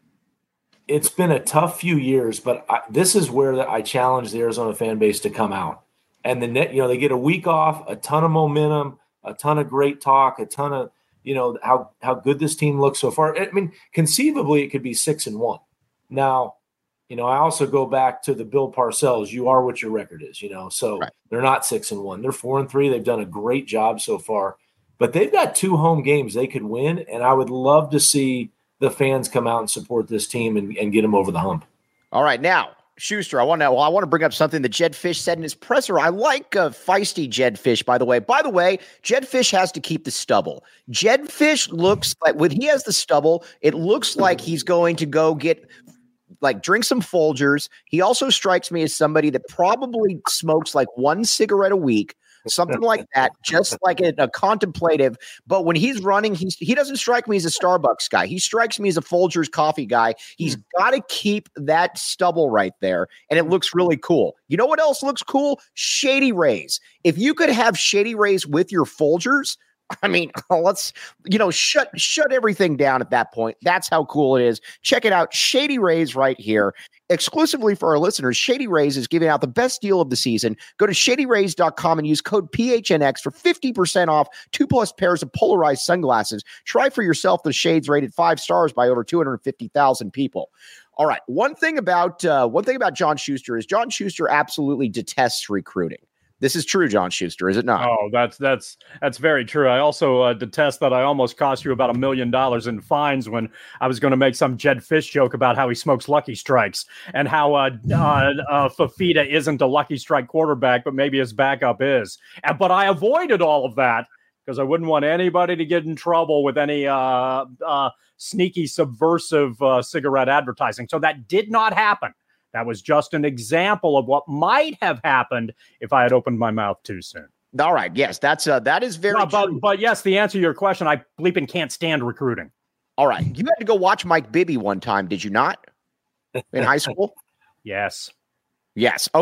It's been a tough few years, but I, this is where I challenge the Arizona fan base to come out. And the net, you know, they get a week off, a ton of momentum, a ton of great talk, a ton of, you know, how how good this team looks so far. I mean, conceivably, it could be six and one. Now, you know, I also go back to the Bill Parcells. You are what your record is, you know. So right. They're not six and one. They're four and three. They've done a great job so far. But they've got two home games they could win, and I would love to see the fans come out and support this team and, and get them over the hump. All right, now, Schuster, I want to well, I want to bring up something that Jedd Fisch said in his presser. I like uh, feisty Jedd Fisch, by the way. By the way, Jedd Fisch has to keep the stubble. Jedd Fisch looks like when he has the stubble, it looks like he's going to go get – like drink some Folgers. He also strikes me as somebody that probably smokes like one cigarette a week, something like that, just like a, a contemplative. But when he's running, he's, he doesn't strike me as a Starbucks guy. He strikes me as a Folgers coffee guy. He's got to keep that stubble right there, and it looks really cool. You know what else looks cool? Shady Rays. If you could have Shady Rays with your Folgers, I mean, let's, you know, shut shut everything down at that point. That's how cool it is. Check it out. Shady Rays right here. Exclusively for our listeners, Shady Rays is giving out the best deal of the season. Go to shady rays dot com and use code P H N X for fifty percent off two plus pairs of polarized sunglasses. Try for yourself the shades rated five stars by over two hundred fifty thousand people. All right. One thing about uh, one thing about John Schuster is John Schuster absolutely detests recruiting. This is true, John Schuster, is it not? Oh, that's that's that's very true. I also uh, detest that I almost cost you about a million dollars in fines when I was going to make some Jedd Fisch joke about how he smokes Lucky Strikes and how uh, uh, uh, Fifita isn't a Lucky Strike quarterback, but maybe his backup is. And, but I avoided all of that because I wouldn't want anybody to get in trouble with any uh, uh, sneaky, subversive uh, cigarette advertising. So that did not happen. That was just an example of what might have happened if I had opened my mouth too soon. All right. Yes, that's uh, that is very no, but, true. But yes, the answer to your question, I bleeping can't stand recruiting. All right. You had to go watch Mike Bibby one time, did you not? In high school? Yes. Yes. Okay.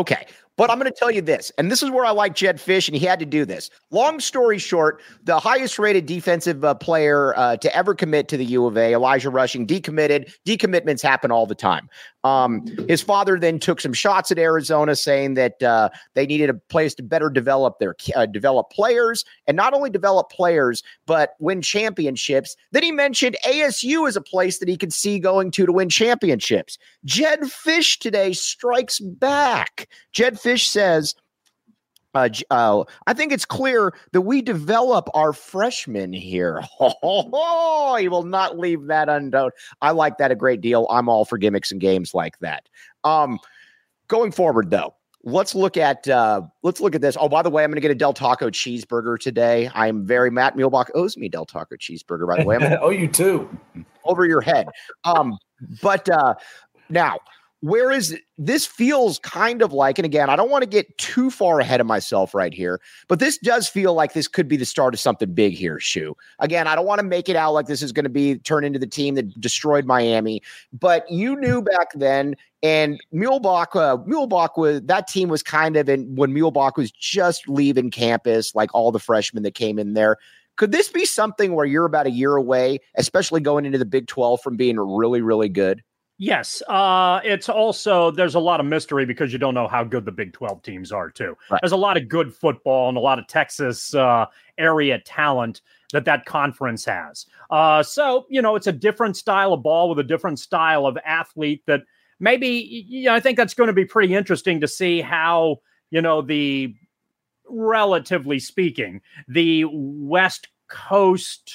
But I'm going to tell you this, and this is where I like Jedd Fisch, and he had to do this. Long story short, the highest rated defensive uh, player uh, to ever commit to the U of A, Elijah Rushing, decommitted. Decommitments happen all the time. Um, his father then took some shots at Arizona, saying that uh, they needed a place to better develop their uh, develop players, and not only develop players, but win championships. Then he mentioned A S U as a place that he could see going to to win championships. Jedd Fisch today strikes back. Jedd Fisch says, uh, uh, I think it's clear that we develop our freshmen here. Oh, he will not leave that undone. I like that a great deal. I'm all for gimmicks and games like that. Um, going forward, though, let's look at uh, let's look at this. Oh, by the way, I'm going to get a Del Taco cheeseburger today. I'm very Matt Muehlbach owes me Del Taco cheeseburger. By the way, I'm oh, you too. Over your head. Um, but uh, now. Where is this feels kind of like, and again, I don't want to get too far ahead of myself right here, but this does feel like this could be the start of something big here, Shu. Again, I don't want to make it out like this is going to be turn into the team that destroyed Miami, but you knew back then, and Muehlbach, uh, Muehlbach was, that team was kind of in when Muehlbach was just leaving campus, like all the freshmen that came in there. Could this be something where you're about a year away, especially going into the Big twelve, from being really, really good? Yes. Uh, it's also, there's a lot of mystery because you don't know how good the Big twelve teams are, too. Right. There's a lot of good football and a lot of Texas uh, area talent that that conference has. Uh, so, you know, it's a different style of ball with a different style of athlete that maybe, you know, I think that's going to be pretty interesting to see how, you know, the, relatively speaking, the West Coast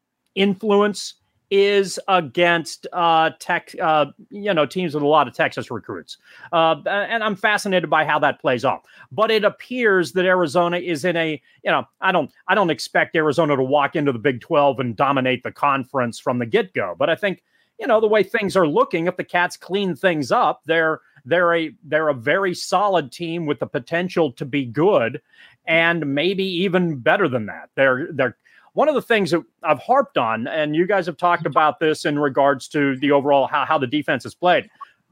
influence is against uh, tech, uh, you know, teams with a lot of Texas recruits. Uh, and I'm fascinated by how that plays off. But it appears that Arizona is in a, you know, I don't, I don't expect Arizona to walk into the Big twelve and dominate the conference from the get-go. But I think, you know, the way things are looking, if the Cats clean things up, they're, they're a, they're a very solid team with the potential to be good and maybe even better than that. They're, they're, One of the things that I've harped on, and you guys have talked about this in regards to the overall how, how the defense is played.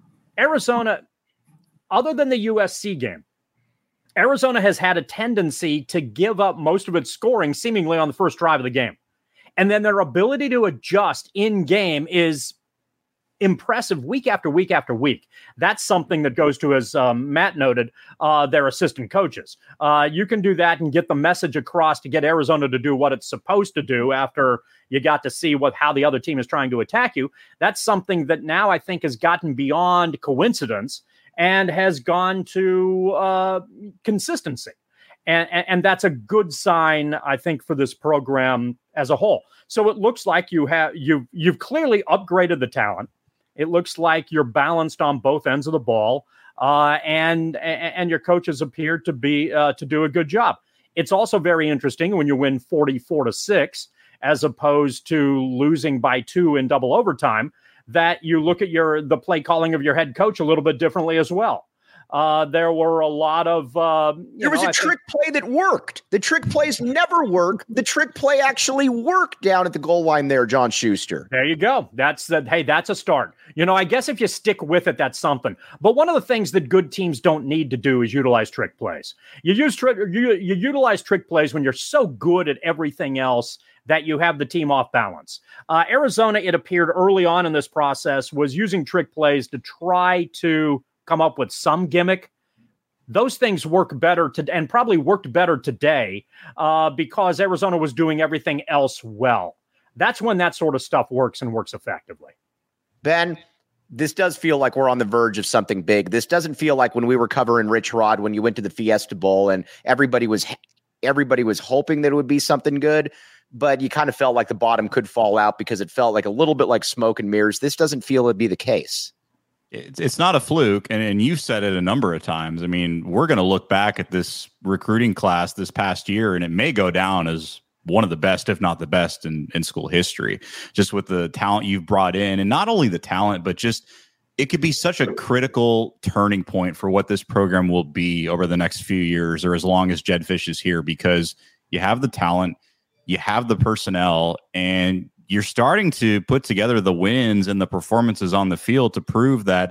Arizona, other than the U S C game, Arizona has had a tendency to give up most of its scoring seemingly on the first drive of the game. And then their ability to adjust in game is impressive week after week after week. That's something that goes to, as um, Matt noted, uh, their assistant coaches. Uh, you can do that and get the message across to get Arizona to do what it's supposed to do after you got to see what how the other team is trying to attack you. That's something that now I think has gotten beyond coincidence and has gone to uh, consistency. And, and, and that's a good sign, I think, for this program as a whole. So it looks like you have you've you've clearly upgraded the talent. It looks like you're balanced on both ends of the ball, uh, and and your coaches appear to be uh, to do a good job. It's also very interesting when you win forty-four to six, as opposed to losing by two in double overtime, that you look at your the play calling of your head coach a little bit differently as well. Uh, there were a lot of uh, there was know, a I trick think- play that worked. The trick plays never work. The trick play actually worked down at the goal line there, John Schuster. There you go. That's that. Hey, that's a start. You know, I guess if you stick with it, that's something. But one of the things that good teams don't need to do is utilize trick plays. You use trick. You, you utilize trick plays when you're so good at everything else that you have the team off balance. Uh, Arizona, it appeared early on in this process, was using trick plays to try to come up with some gimmick. Those things work better to, and probably worked better today uh, because Arizona was doing everything else well. That's when that sort of stuff works and works effectively. Ben, this does feel like we're on the verge of something big. This doesn't feel like when we were covering Rich Rod, when you went to the Fiesta Bowl and everybody was everybody was hoping that it would be something good, but you kind of felt like the bottom could fall out because it felt like a little bit like smoke and mirrors. This doesn't feel to be the case. It's, it's not a fluke, and, and you've said it a number of times. I mean, we're going to look back at this recruiting class this past year, and it may go down as one of the best, if not the best, in, in school history, just with the talent you've brought in. And not only the talent, but just it could be such a critical turning point for what this program will be over the next few years, or as long as Jedd Fisch is here, because you have the talent, you have the personnel, and you're starting to put together the wins and the performances on the field to prove that,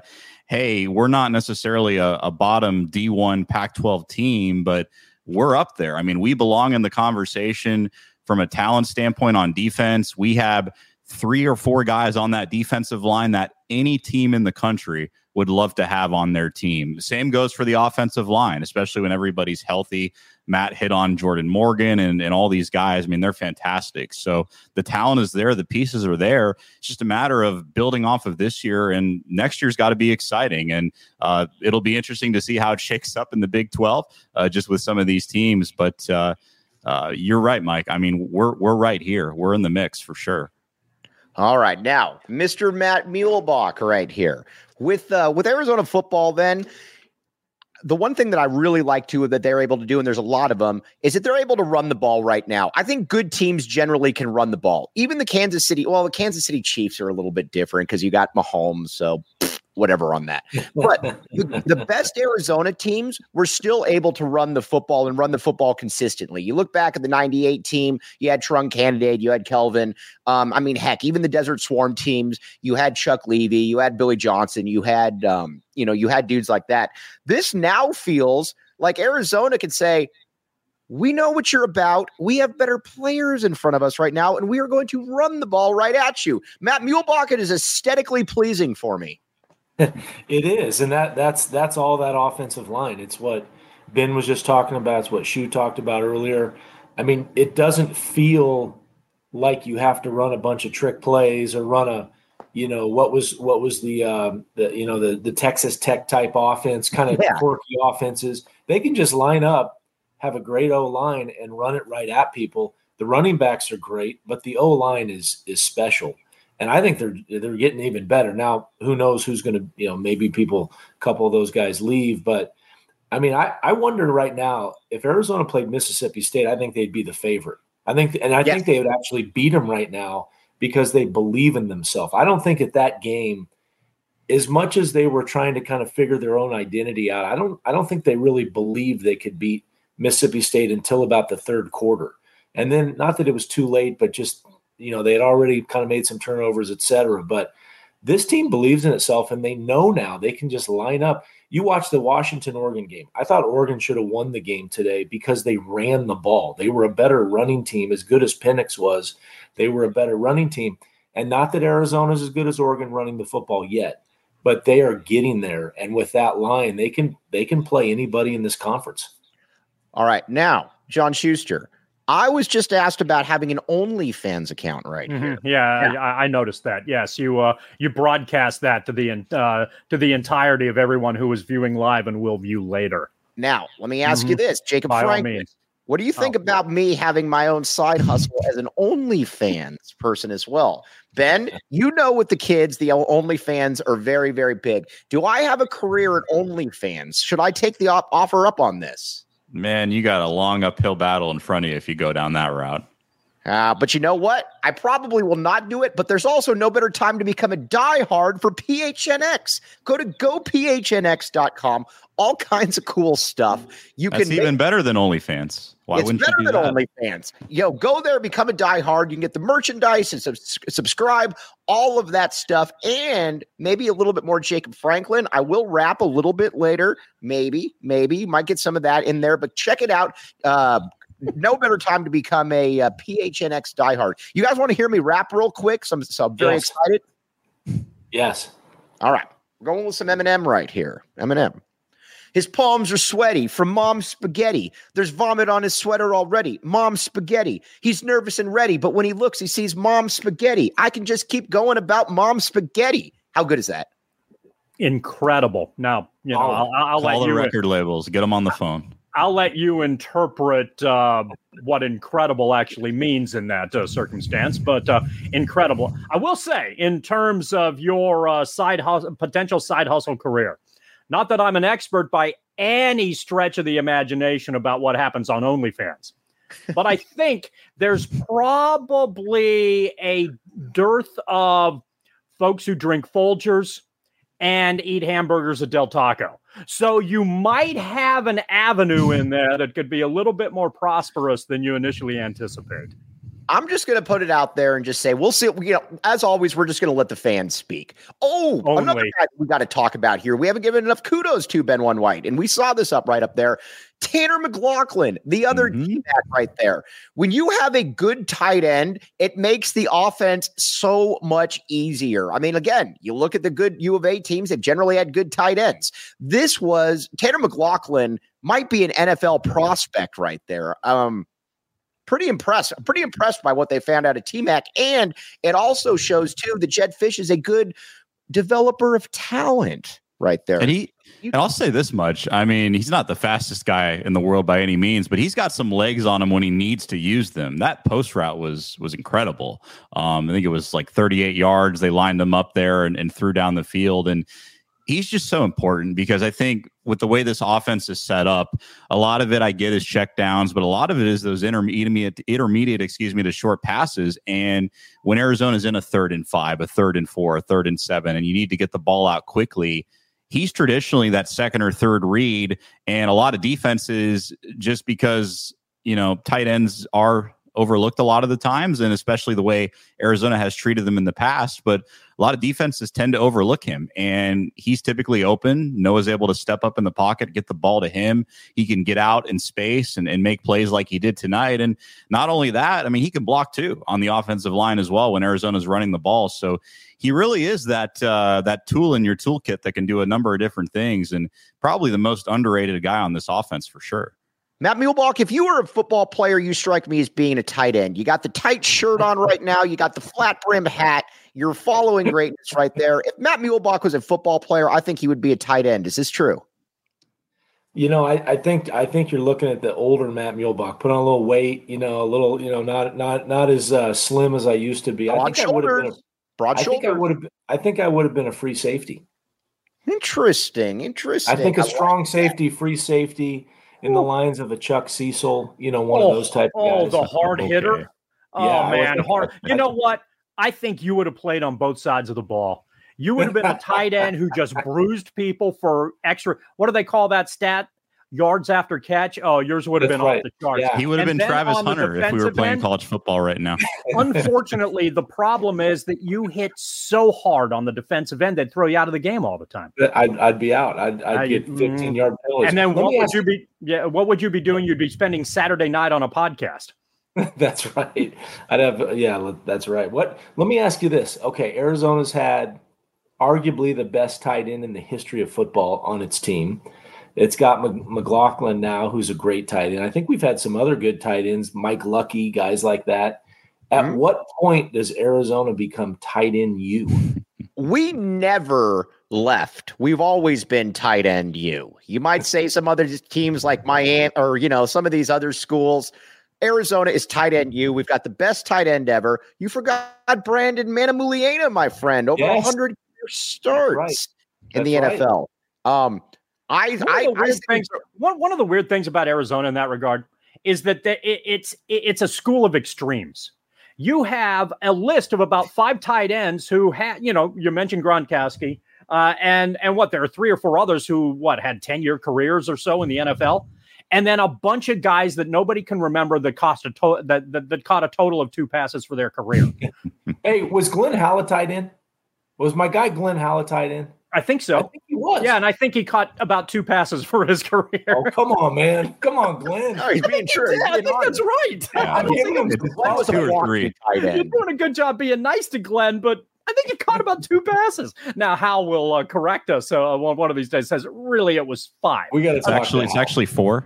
hey, we're not necessarily a, a bottom D one Pac twelve team, but we're up there. I mean, we belong in the conversation from a talent standpoint on defense. We have three or four guys on that defensive line that any team in the country would love to have on their team. The same goes for the offensive line, especially when everybody's healthy. Matt hit on Jordan Morgan and, and all these guys. I mean, they're fantastic. So the talent is there. The pieces are there. It's just a matter of building off of this year, and next year's got to be exciting. And uh, it'll be interesting to see how it shakes up in the Big twelve, uh, just with some of these teams. But uh, uh, you're right, Mike. I mean, we're we're right here. We're in the mix for sure. All right. Now, Mister Matt Muehlbach right here. With uh, with Arizona football, then, the one thing that I really like, too, that they're able to do, and there's a lot of them, is that they're able to run the ball right now. I think good teams generally can run the ball. Even the Kansas City, well, the Kansas City Chiefs are a little bit different because you got Mahomes, so pfft, whatever on that. But the, the best Arizona teams were still able to run the football and run the football consistently. You look back at the ninety-eight team, you had Trung Candidate, you had Kelvin. Um, I mean, heck, even the Desert Swarm teams, you had Chuck Levy, you had Billy Johnson, you had, um, you know, you had dudes like that. This now feels like Arizona could say, we know what you're about. We have better players in front of us right now, and we are going to run the ball right at you. Matt Muehlbach, it is aesthetically pleasing for me. It is, and that that's that's all that offensive line. It's what Ben was just talking about. It's what Shu talked about earlier. I mean, it doesn't feel like you have to run a bunch of trick plays or run a, you know, what was what was the um, the you know the the Texas Tech type offense, kind of yeah. quirky offenses. They can just line up, have a great O line, and run it right at people. The running backs are great, but the O line is is special. And I think they're they're getting even better. Now, who knows who's going to, you know, maybe people, a couple of those guys leave. But, I mean, I, I wonder right now, if Arizona played Mississippi State, I think they'd be the favorite. I think, and I yes. think they would actually beat them right now because they believe in themselves. I don't think at that game, as much as they were trying to kind of figure their own identity out, I don't I don't think they really believed they could beat Mississippi State until about the third quarter. And then, not that it was too late, but just – you know, they had already kind of made some turnovers, et cetera. But this team believes in itself, and they know now they can just line up. You watch the Washington-Oregon game. I thought Oregon should have won the game today because they ran the ball. They were a better running team. As good as Penix was, they were a better running team. And not that Arizona's as good as Oregon running the football yet, but they are getting there. And with that line, they can they can play anybody in this conference. All right. Now, John Schuster, I was just asked about having an OnlyFans account right mm-hmm. here. Yeah, yeah. I, I noticed that. Yes, you uh, you broadcast that to the uh, to the entirety of everyone who was viewing live and will view later. Now, let me ask mm-hmm. you this, Jacob By Franklin. What do you think oh, about yeah. me having my own side hustle as an OnlyFans person as well? Ben, you know, with the kids, the OnlyFans are very, very big. Do I have a career at OnlyFans? Should I take the op- offer up on this? Man, you got a long uphill battle in front of you if you go down that route. Uh, but you know what? I probably will not do it, but there's also no better time to become a diehard for P H N X. Go to go P H N X dot com. All kinds of cool stuff. You That's can even make- better than OnlyFans. Why it's wouldn't better you do than that? OnlyFans. Yo, go there, become a diehard. You can get the merchandise and subs- subscribe, all of that stuff, and maybe a little bit more Jacob Franklin. I will rap a little bit later. Maybe, maybe. Might get some of that in there, but check it out. Uh, no better time to become a uh, P H N X diehard. You guys want to hear me rap real quick? So I'm, so I'm very yes. excited. Yes. All right. We're going with some Eminem right here. Eminem. His palms are sweaty from mom's spaghetti. There's vomit on his sweater already. Mom's spaghetti. He's nervous and ready, but when he looks, he sees mom's spaghetti. I can just keep going about mom's spaghetti. How good is that? Incredible. Now, you know, oh, I'll, I'll call let the you record labels. Get them on the phone. I'll let you interpret uh, what incredible actually means in that uh, circumstance, but uh, incredible. I will say, in terms of your uh, side hustle, potential side hustle career, not that I'm an expert by any stretch of the imagination about what happens on OnlyFans, but I think there's probably a dearth of folks who drink Folgers and eat hamburgers at Del Taco. So you might have an avenue in there that could be a little bit more prosperous than you initially anticipated. I'm just going to put it out there and just say, we'll see. You know, as always, we're just going to let the fans speak. Oh, Only. another guy we got to talk about here. We haven't given enough kudos to Ben One White, and we saw this up right up there. Tanner McLaughlin, the other Mhm. T-back right there. When you have a good tight end, it makes the offense so much easier. I mean, again, you look at the good U of A teams that generally had good tight ends. This was Tanner McLaughlin might be an N F L prospect right there. Um, pretty impressed. I'm pretty impressed by what they found out of T-Mac. And it also shows too that Jedd Fisch is a good developer of talent right there. And he, and I'll say this much. I mean, he's not the fastest guy in the world by any means, but he's got some legs on him when he needs to use them. That post route was was incredible. Um, I think it was like thirty-eight yards. They lined him up there and, and threw down the field. And he's just so important because I think with the way this offense is set up, a lot of it I get is check downs, but a lot of it is those intermediate, intermediate, excuse me, to short passes. And when Arizona's in a third and five, a third and four, a third and seven, and you need to get the ball out quickly, he's traditionally that second or third read. And a lot of defenses, just because, you know, tight ends are overlooked a lot of the times, and especially the way Arizona has treated them in the past. But a lot of defenses tend to overlook him, and he's typically open. Noah's able to step up in the pocket, get the ball to him. He can get out in space and, and make plays like he did tonight. And not only that, I mean, he can block too on the offensive line as well when Arizona's running the ball. So he really is that uh, that tool in your toolkit that can do a number of different things, and probably the most underrated guy on this offense for sure. Matt Muehlbach, if you were a football player, you strike me as being a tight end. You got the tight shirt on right now. You got the flat brim hat. You're following greatness right there. If Matt Muehlbach was a football player, I think he would be a tight end. Is this true? You know, I, I think I think you're looking at the older Matt Muehlbach. Put on a little weight, you know, a little, you know, not not not as uh, slim as I used to be. Broad I think shoulders. I would have been. A, Broad I think I shoulders. would have. I think I would have been a free safety. Interesting. Interesting. I think a I like strong that. safety, free safety, in the lines of a Chuck Cecil. You know, one oh, of those type of oh, guys. the hard Okay. hitter. Oh, Yeah, I man, was- hard. You know what? I think you would have played on both sides of the ball. You would have been a tight end who just bruised people for extra. What do they call that stat? Yards after catch. Oh, yours would have That's been right. off the charts. Yeah. He would have And been then Travis on the Hunter if we were defensive playing end- college football right now. Unfortunately, the problem is that you hit so hard on the defensive end, they'd throw you out of the game all the time. I'd, I'd be out. I'd, I'd I- get mm. fifteen yard penalties. And then Let what me would ask you be? Yeah, what would you be doing? You'd be spending Saturday night on a podcast. That's right. I'd have, yeah, that's right. What? Let me ask you this. Okay, Arizona's had arguably the best tight end in the history of football on its team. It's got Mc- McLaughlin now, who's a great tight end. I think we've had some other good tight ends, Mike Lucky, guys like that. At Mhm. what point does Arizona become tight end you? We never left. We've always been tight end you. You might say some other teams like Miami or, you know, some of these other schools. Arizona is tight end you. We've got the best tight end ever. You forgot Brandon Manamuliana, my friend, over Yes. one hundred starts right. in the That's N F L. Um, I, One of, I, the I weird think- things, one, one of the weird things about Arizona in that regard is that the, it, it's it, it's a school of extremes. You have a list of about five tight ends who had, you know, you mentioned Gronkowski, uh, and and what there are three or four others who what had ten year careers or so in the N F L, and then a bunch of guys that nobody can remember that cost a to- that, that that caught a total of two passes for their career. Hey, was Glenn Howell tight end? Was my guy Glenn Howell tight end? I think I so. think he was. Yeah, and I think he caught about two passes for his career. Oh, come on, man. Come on, Glenn. No, he's being true. Yeah, I He's being think that's honest. right. Yeah, I'm giving him Glenn some was a Two or walking three. tight You're end. doing a good job being nice to Glenn, but I think he caught about two passes. Now Hal will uh, correct us. Uh, one, one of these days says really it was five. We got to It's talk actually to it's Hal. actually four.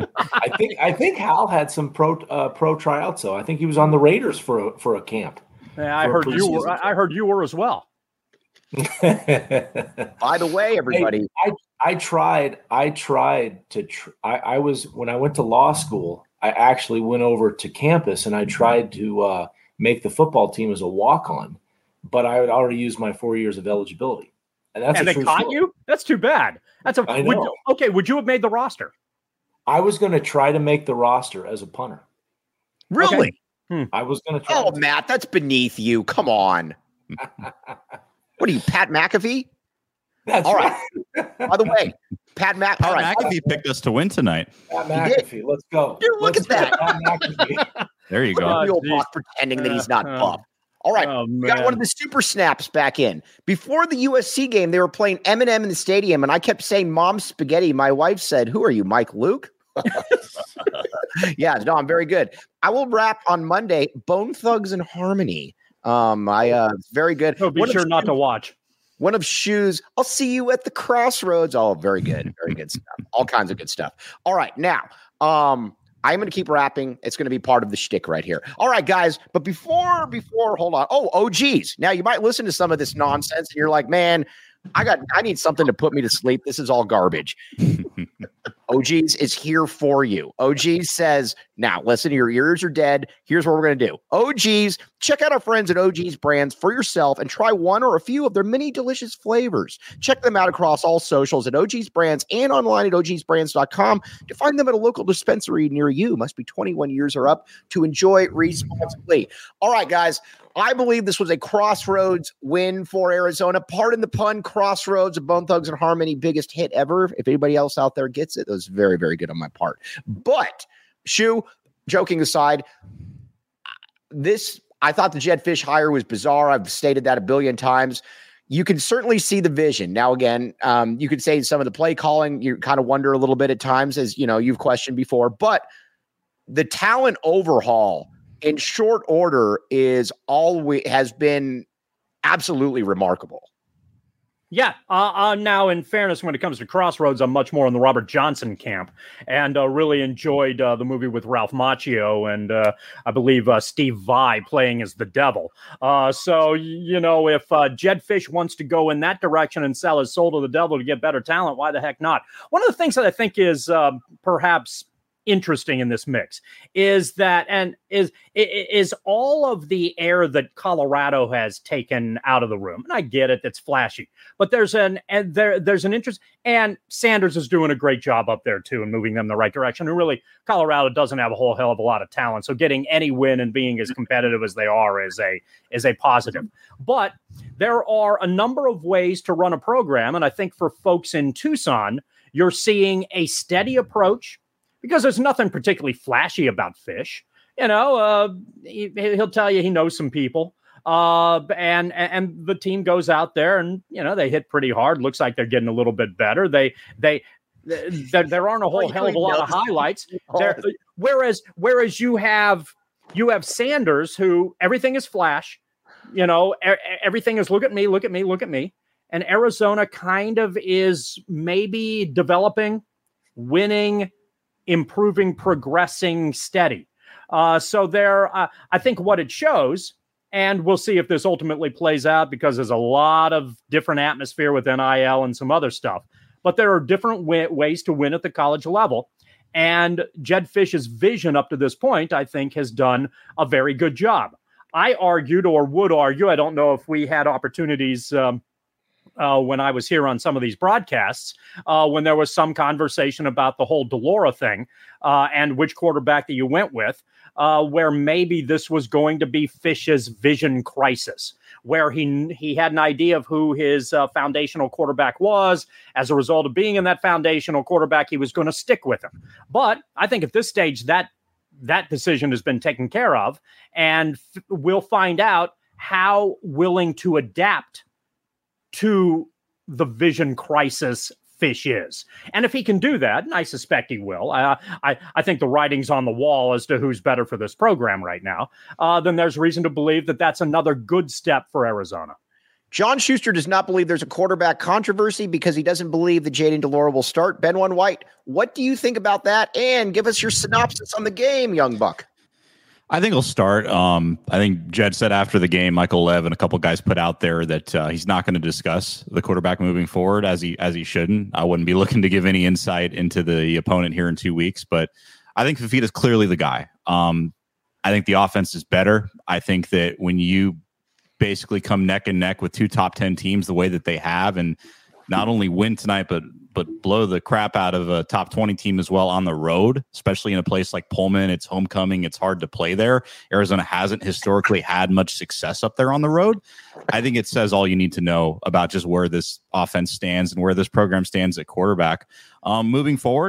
I think I think Hal had some pro uh, pro tryouts though. I think he was on the Raiders for a, for a camp. Yeah, I for heard you were. preseason. I I heard you were as well. By the way, everybody, I, I tried. I tried to. Tr- I, I was when I went to law school. I actually went over to campus and I tried to uh, make the football team as a walk on, but I had already used my four years of eligibility, and that's and a they true caught story. you. That's too bad. That's a. I would- know. okay, would you have made the roster? I was going to try to make the roster as a punter. really? I was going to try. Oh, Matt, that's beneath you. Come on. What are you, Pat McAfee? That's all right. By the way, Pat Mac. All Pat right, McAfee picked us to win tonight. Pat He did. McAfee. Let's go. Dude, look Let's at that. go, Pat McAfee. There you Look go. at Real geez. Talk pretending that he's not Uh, buff. All right, Oh, we got man. one of the super snaps back in. Before the U S C game, they were playing Eminem in the stadium, and I kept saying "Mom Spaghetti." My wife said, "Who are you, Mike Luke?" Yeah, no, I'm very good. I will wrap on Monday. Bone Thugs and Harmony. Um, I uh, very good. So be One of sure not Shoes- to watch. One of Shoes. I'll see you at the crossroads. Oh, very good, very good stuff. All kinds of good stuff. All right, now, um. I'm going to keep rapping. It's going to be part of the shtick right here. All right, guys. But before, before, hold on. Oh, O Gs. Now you might listen to some of this nonsense and you're like, man, I got, I need something to put me to sleep. This is all garbage. O Gs is here for you. O Gs says, now listen, your ears are dead. Here's what we're going to do. O Gs, check out our friends at O Gs Brands for yourself and try one or a few of their many delicious flavors. Check them out across all socials at O Gs Brands and online at O Gs brands dot com to find them at a local dispensary near you. Must be twenty-one years or up to enjoy responsibly. All right, guys. I believe this was a crossroads win for Arizona. Pardon the pun, crossroads of Bone Thugs and Harmony, biggest hit ever. If anybody else out there gets it, it was very, very good on my part. But, Shu, joking aside, this, I thought the Jedd Fisch hire was bizarre. I've stated that a billion times. You can certainly see the vision. Now, again, um, you could say some of the play calling, you kind of wonder a little bit at times, as you know, you've questioned before, but the talent overhaul in short order is always has been absolutely remarkable. Yeah. Uh, uh, now, in fairness, when it comes to Crossroads, I'm much more in the Robert Johnson camp, and uh, really enjoyed uh, the movie with Ralph Macchio and uh, I believe uh, Steve Vai playing as the devil. Uh, so, you know, if uh, Jedd Fisch wants to go in that direction and sell his soul to the devil to get better talent, why the heck not? One of the things that I think is uh, perhaps interesting in this mix is that, and is is all of the air that Colorado has taken out of the room. And I get it, it's flashy, but there's an and there there's an interest, and Sanders is doing a great job up there too and moving them in the right direction. And really, Colorado doesn't have a whole hell of a lot of talent, so getting any win and being as competitive as they are is a is a positive. But there are a number of ways to run a program, and I think for folks in Tucson, you're seeing a steady approach, because there's nothing particularly flashy about Fisch. You know, uh, he, he'll tell you he knows some people. Uh, and, and the team goes out there and, you know, they hit pretty hard. Looks like they're getting a little bit better. They, they, there, there aren't a whole hell of a lot of highlights. There, whereas, whereas you have, you have Sanders, who everything is flash, you know, er, everything is look at me, look at me, look at me. And Arizona kind of is maybe developing, winning, improving, progressing, steady. Uh, so there, uh, I think what it shows, and we'll see if this ultimately plays out because there's a lot of different atmosphere with N I L and some other stuff, but there are different w- ways to win at the college level. And Jedd Fisch's vision up to this point, I think, has done a very good job. I argued or would argue, I don't know if we had opportunities um, Uh, when I was here on some of these broadcasts, uh, when there was some conversation about the whole Delora thing uh, and which quarterback that you went with, uh, where maybe this was going to be Fisch's vision crisis, where he he had an idea of who his uh, foundational quarterback was. As a result of being in that foundational quarterback, he was going to stick with him. But I think at this stage, that that decision has been taken care of, and f- we'll find out how willing to adapt to the vision crisis Fisch is. And if he can do that, and I suspect he will, uh, I, I think the writing's on the wall as to who's better for this program right now, uh, then there's reason to believe that that's another good step for Arizona. John Schuster does not believe there's a quarterback controversy because he doesn't believe that Jayden de Laura will start. Ben One White, what do you think about that? And give us your synopsis on the game, young buck. I think he'll start. Um, I think Jed said after the game, Michael Lev and a couple guys put out there that uh, he's not going to discuss the quarterback moving forward, as he as he shouldn't. I wouldn't be looking to give any insight into the opponent here in two weeks, but I think Fifita's clearly the guy. Um, I think the offense is better. I think that when you basically come neck and neck with two top ten teams the way that they have, and not only win tonight, but but blow the crap out of a top twenty team as well on the road, especially in a place like Pullman. It's homecoming. It's hard to play there. Arizona hasn't historically had much success up there on the road. I think it says all you need to know about just where this offense stands and where this program stands at quarterback. Um, moving forward,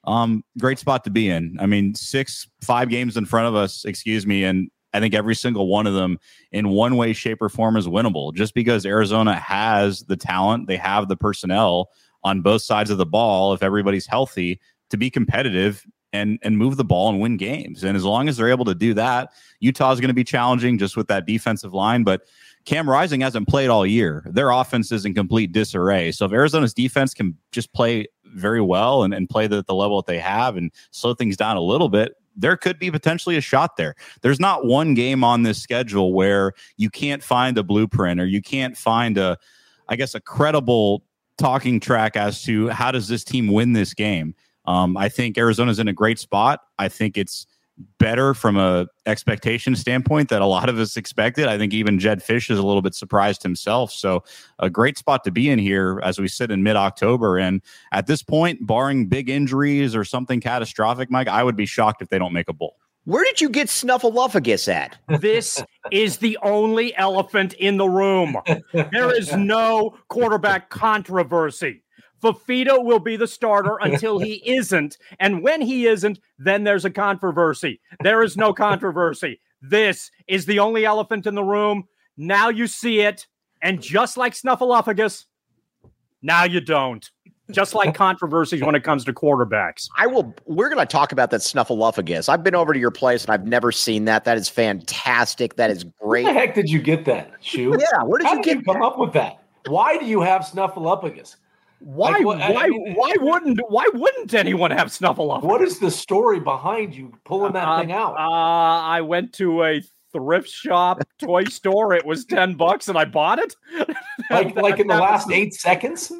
um, great spot to be in. I mean, six, five games in front of us, excuse me, and I think every single one of them in one way, shape, or form is winnable. Just because Arizona has the talent, they have the personnel on both sides of the ball, if everybody's healthy, to be competitive and and move the ball and win games. And as long as they're able to do that, Utah is going to be challenging just with that defensive line. But Cam Rising hasn't played all year. Their offense is in complete disarray. So if Arizona's defense can just play very well and, and play the, the level that they have and slow things down a little bit, there could be potentially a shot there. There's not one game on this schedule where you can't find a blueprint or you can't find a, I guess, a credible talking track as to how does this team win this game. Um, I think Arizona's in a great spot. I think it's better from a expectation standpoint that a lot of us expected. I think even Jedd Fisch is a little bit surprised himself. So a great spot to be in here as we sit in mid-October. And at this point, barring big injuries or something catastrophic, Mike, I would be shocked if they don't make a bowl. Where did you get Snuffleupagus at? This is the only elephant in the room. There is no quarterback controversy. Fifita will be the starter until he isn't. And when he isn't, then there's a controversy. There is no controversy. This is the only elephant in the room. Now you see it. And just like Snuffleupagus, now you don't. Just like controversies when it comes to quarterbacks. I will. We're going to talk about that Snuffleupagus. I've been over to your place and I've never seen that. That is fantastic. That is great. Where the heck did you get that, Shu? Yeah, where did How you did get you come that? up with that? Why do you have Snuffleupagus? Why? Like, what- I why? mean- why wouldn't? Why wouldn't anyone have Snuffleupagus? What is the story behind you pulling that Uh, thing out? Uh, I went to a thrift shop toy store. It was ten bucks, and I bought it. like, like in the That last was- eight seconds?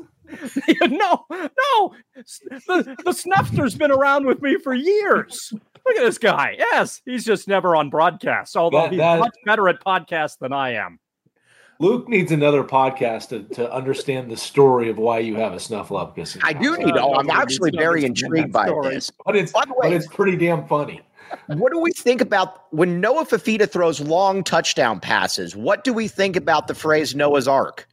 no, no. The, the Snuffster's been around with me for years. Look at this guy. Yes, he's just never on broadcast, although That- he's that- much better at podcasts than I am. Luke needs another podcast to, to understand the story of why you have a Snuffleupagus. I do need. Oh, I'm Uh, actually nobody very needs to intrigued understand by that story. this. But it's, By the way- but it's pretty damn funny. What do we think about when Noah Fifita throws long touchdown passes? What do we think about the phrase Noah's Ark?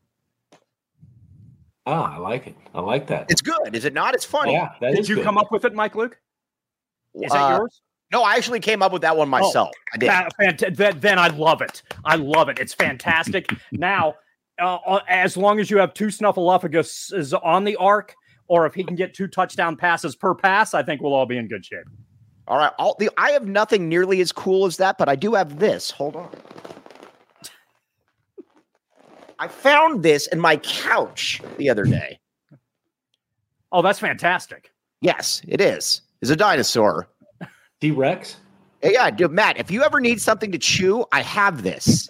Ah, I like it. I like that. It's good, is it not? It's funny. Yeah, that Did is you good. come up with it, Mike Luke? Is that Uh, yours? No, I actually came up with that one myself. I did. That- fant- that- then I love it. I love it. It's fantastic. Now, uh, as long as you have two Snuffleupaguses on the arc, or if he can get two touchdown passes per pass, I think we'll all be in good shape. All right. I'll, the, I have nothing nearly as cool as that, but I do have this. Hold on. I found this in my couch the other day. Oh, that's fantastic. Yes, it is. It's a dinosaur. T-Rex? Hey, yeah, dude, Matt, if you ever need something to chew, I have this.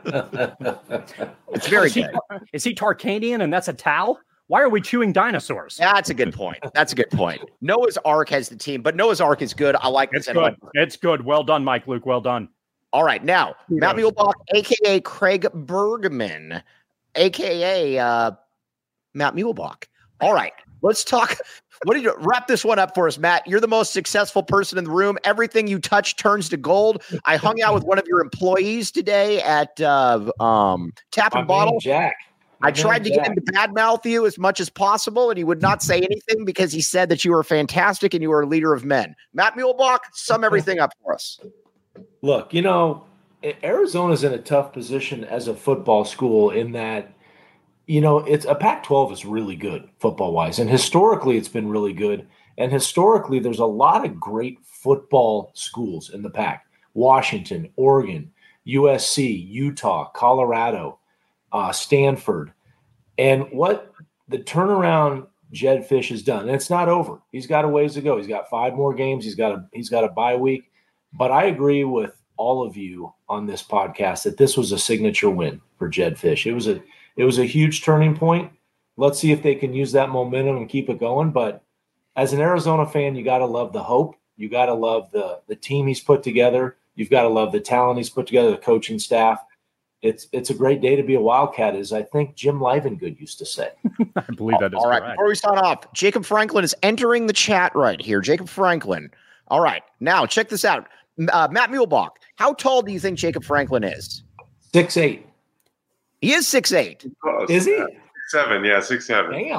It's very is he, good. is he Tarkanian and that's a Tau? Why are we chewing dinosaurs? That's a good point. That's a good point. Noah's Ark has the team, but Noah's Ark is good. I like this. It's good. It's good. Well done, Mike Luke. Well done. All right. Now, Who Matt knows? Muehlbach, a k a. Craig Bergman, a k a. Uh, Matt Muehlbach. All right. Let's talk. What did you wrap this one up for us, Matt? You're the most successful person in the room. Everything you touch turns to gold. I hung out with one of your employees today at uh, um, Tap My and man Bottle. Jack. My I man tried to Jack. get him to badmouth you as much as possible, and he would not say anything because he said that you were fantastic and you were a leader of men. Matt Muehlbach, sum everything up for us. Look, you know, Arizona's in a tough position as a football school in that, you know, it's a Pac twelve is really good football wise. And historically, it's been really good. And historically, there's a lot of great football schools in the Pac. Washington, Oregon, U S C, Utah, Colorado, uh, Stanford. And what the turnaround Jedd Fisch has done, and it's not over. He's got a ways to go. He's got five more games. He's got a he's got a bye week. But I agree with all of you on this podcast that this was a signature win for Jedd Fisch. It was a it was a huge turning point. Let's see if they can use that momentum and keep it going. But as an Arizona fan, you got to love the hope. You got to love the the team he's put together. You've got to love the talent he's put together, the coaching staff. It's it's a great day to be a Wildcat, as I think Jim Livengood used to say. I believe that is All right. correct. Before we sign off, Jacob Franklin is entering the chat right here. Jacob Franklin. All right. Now, check this out. Uh, Matt Muehlbach, how tall do you think Jacob Franklin is? Six eight. He is six eight. Close. Is he? Yeah. Six, seven, yeah, six seven. Damn.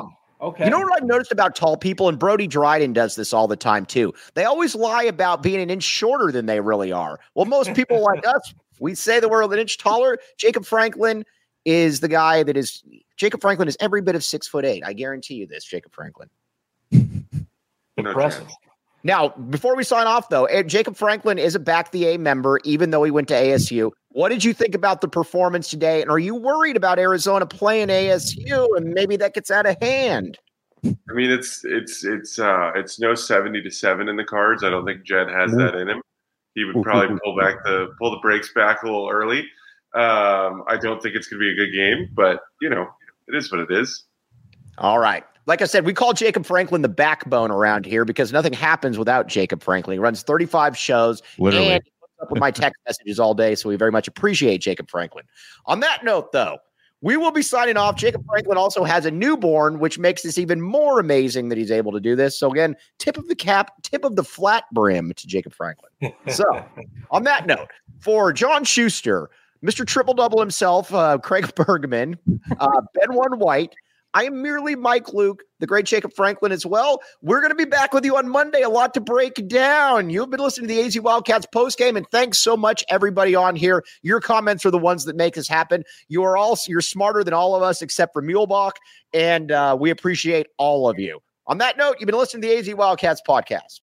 Okay. You know what I've noticed about tall people, and Brody Dryden does this all the time too. They always lie about being an inch shorter than they really are. Well, most people like us, we say that we're an inch taller. Jacob Franklin is the guy that is Jacob Franklin is every bit of six foot eight. I guarantee you this, Jacob Franklin. Impressive. Now, before we sign off, though, Jacob Franklin is a Back the A member, even though he went to A S U. What did you think about the performance today? And are you worried about Arizona playing A S U and maybe that gets out of hand? I mean, it's it's it's uh, it's no seventy to seven in the cards. I don't think Jed has that in him. He would probably pull back the pull the brakes back a little early. Um, I don't think it's going to be a good game, but you know, it is what it is. All right. Like I said, we call Jacob Franklin the backbone around here because nothing happens without Jacob Franklin. He runs thirty-five shows. Literally. And he puts up with my text messages all day, so we very much appreciate Jacob Franklin. On that note, though, we will be signing off. Jacob Franklin also has a newborn, which makes this even more amazing that he's able to do this. So again, tip of the cap, tip of the flat brim to Jacob Franklin. So on that note, for John Schuster, Mister Triple Double himself, uh, Craig Bergman, uh, Ben One White, I am merely Mike Luke, the great Jacob Franklin as well. We're going to be back with you on Monday. A lot to break down. You've been listening to the A Z Wildcats postgame, and thanks so much, everybody on here. Your comments are the ones that make this happen. You are all you're smarter than all of us, except for Muehlbach, and uh, we appreciate all of you. On that note, you've been listening to the A Z Wildcats podcast.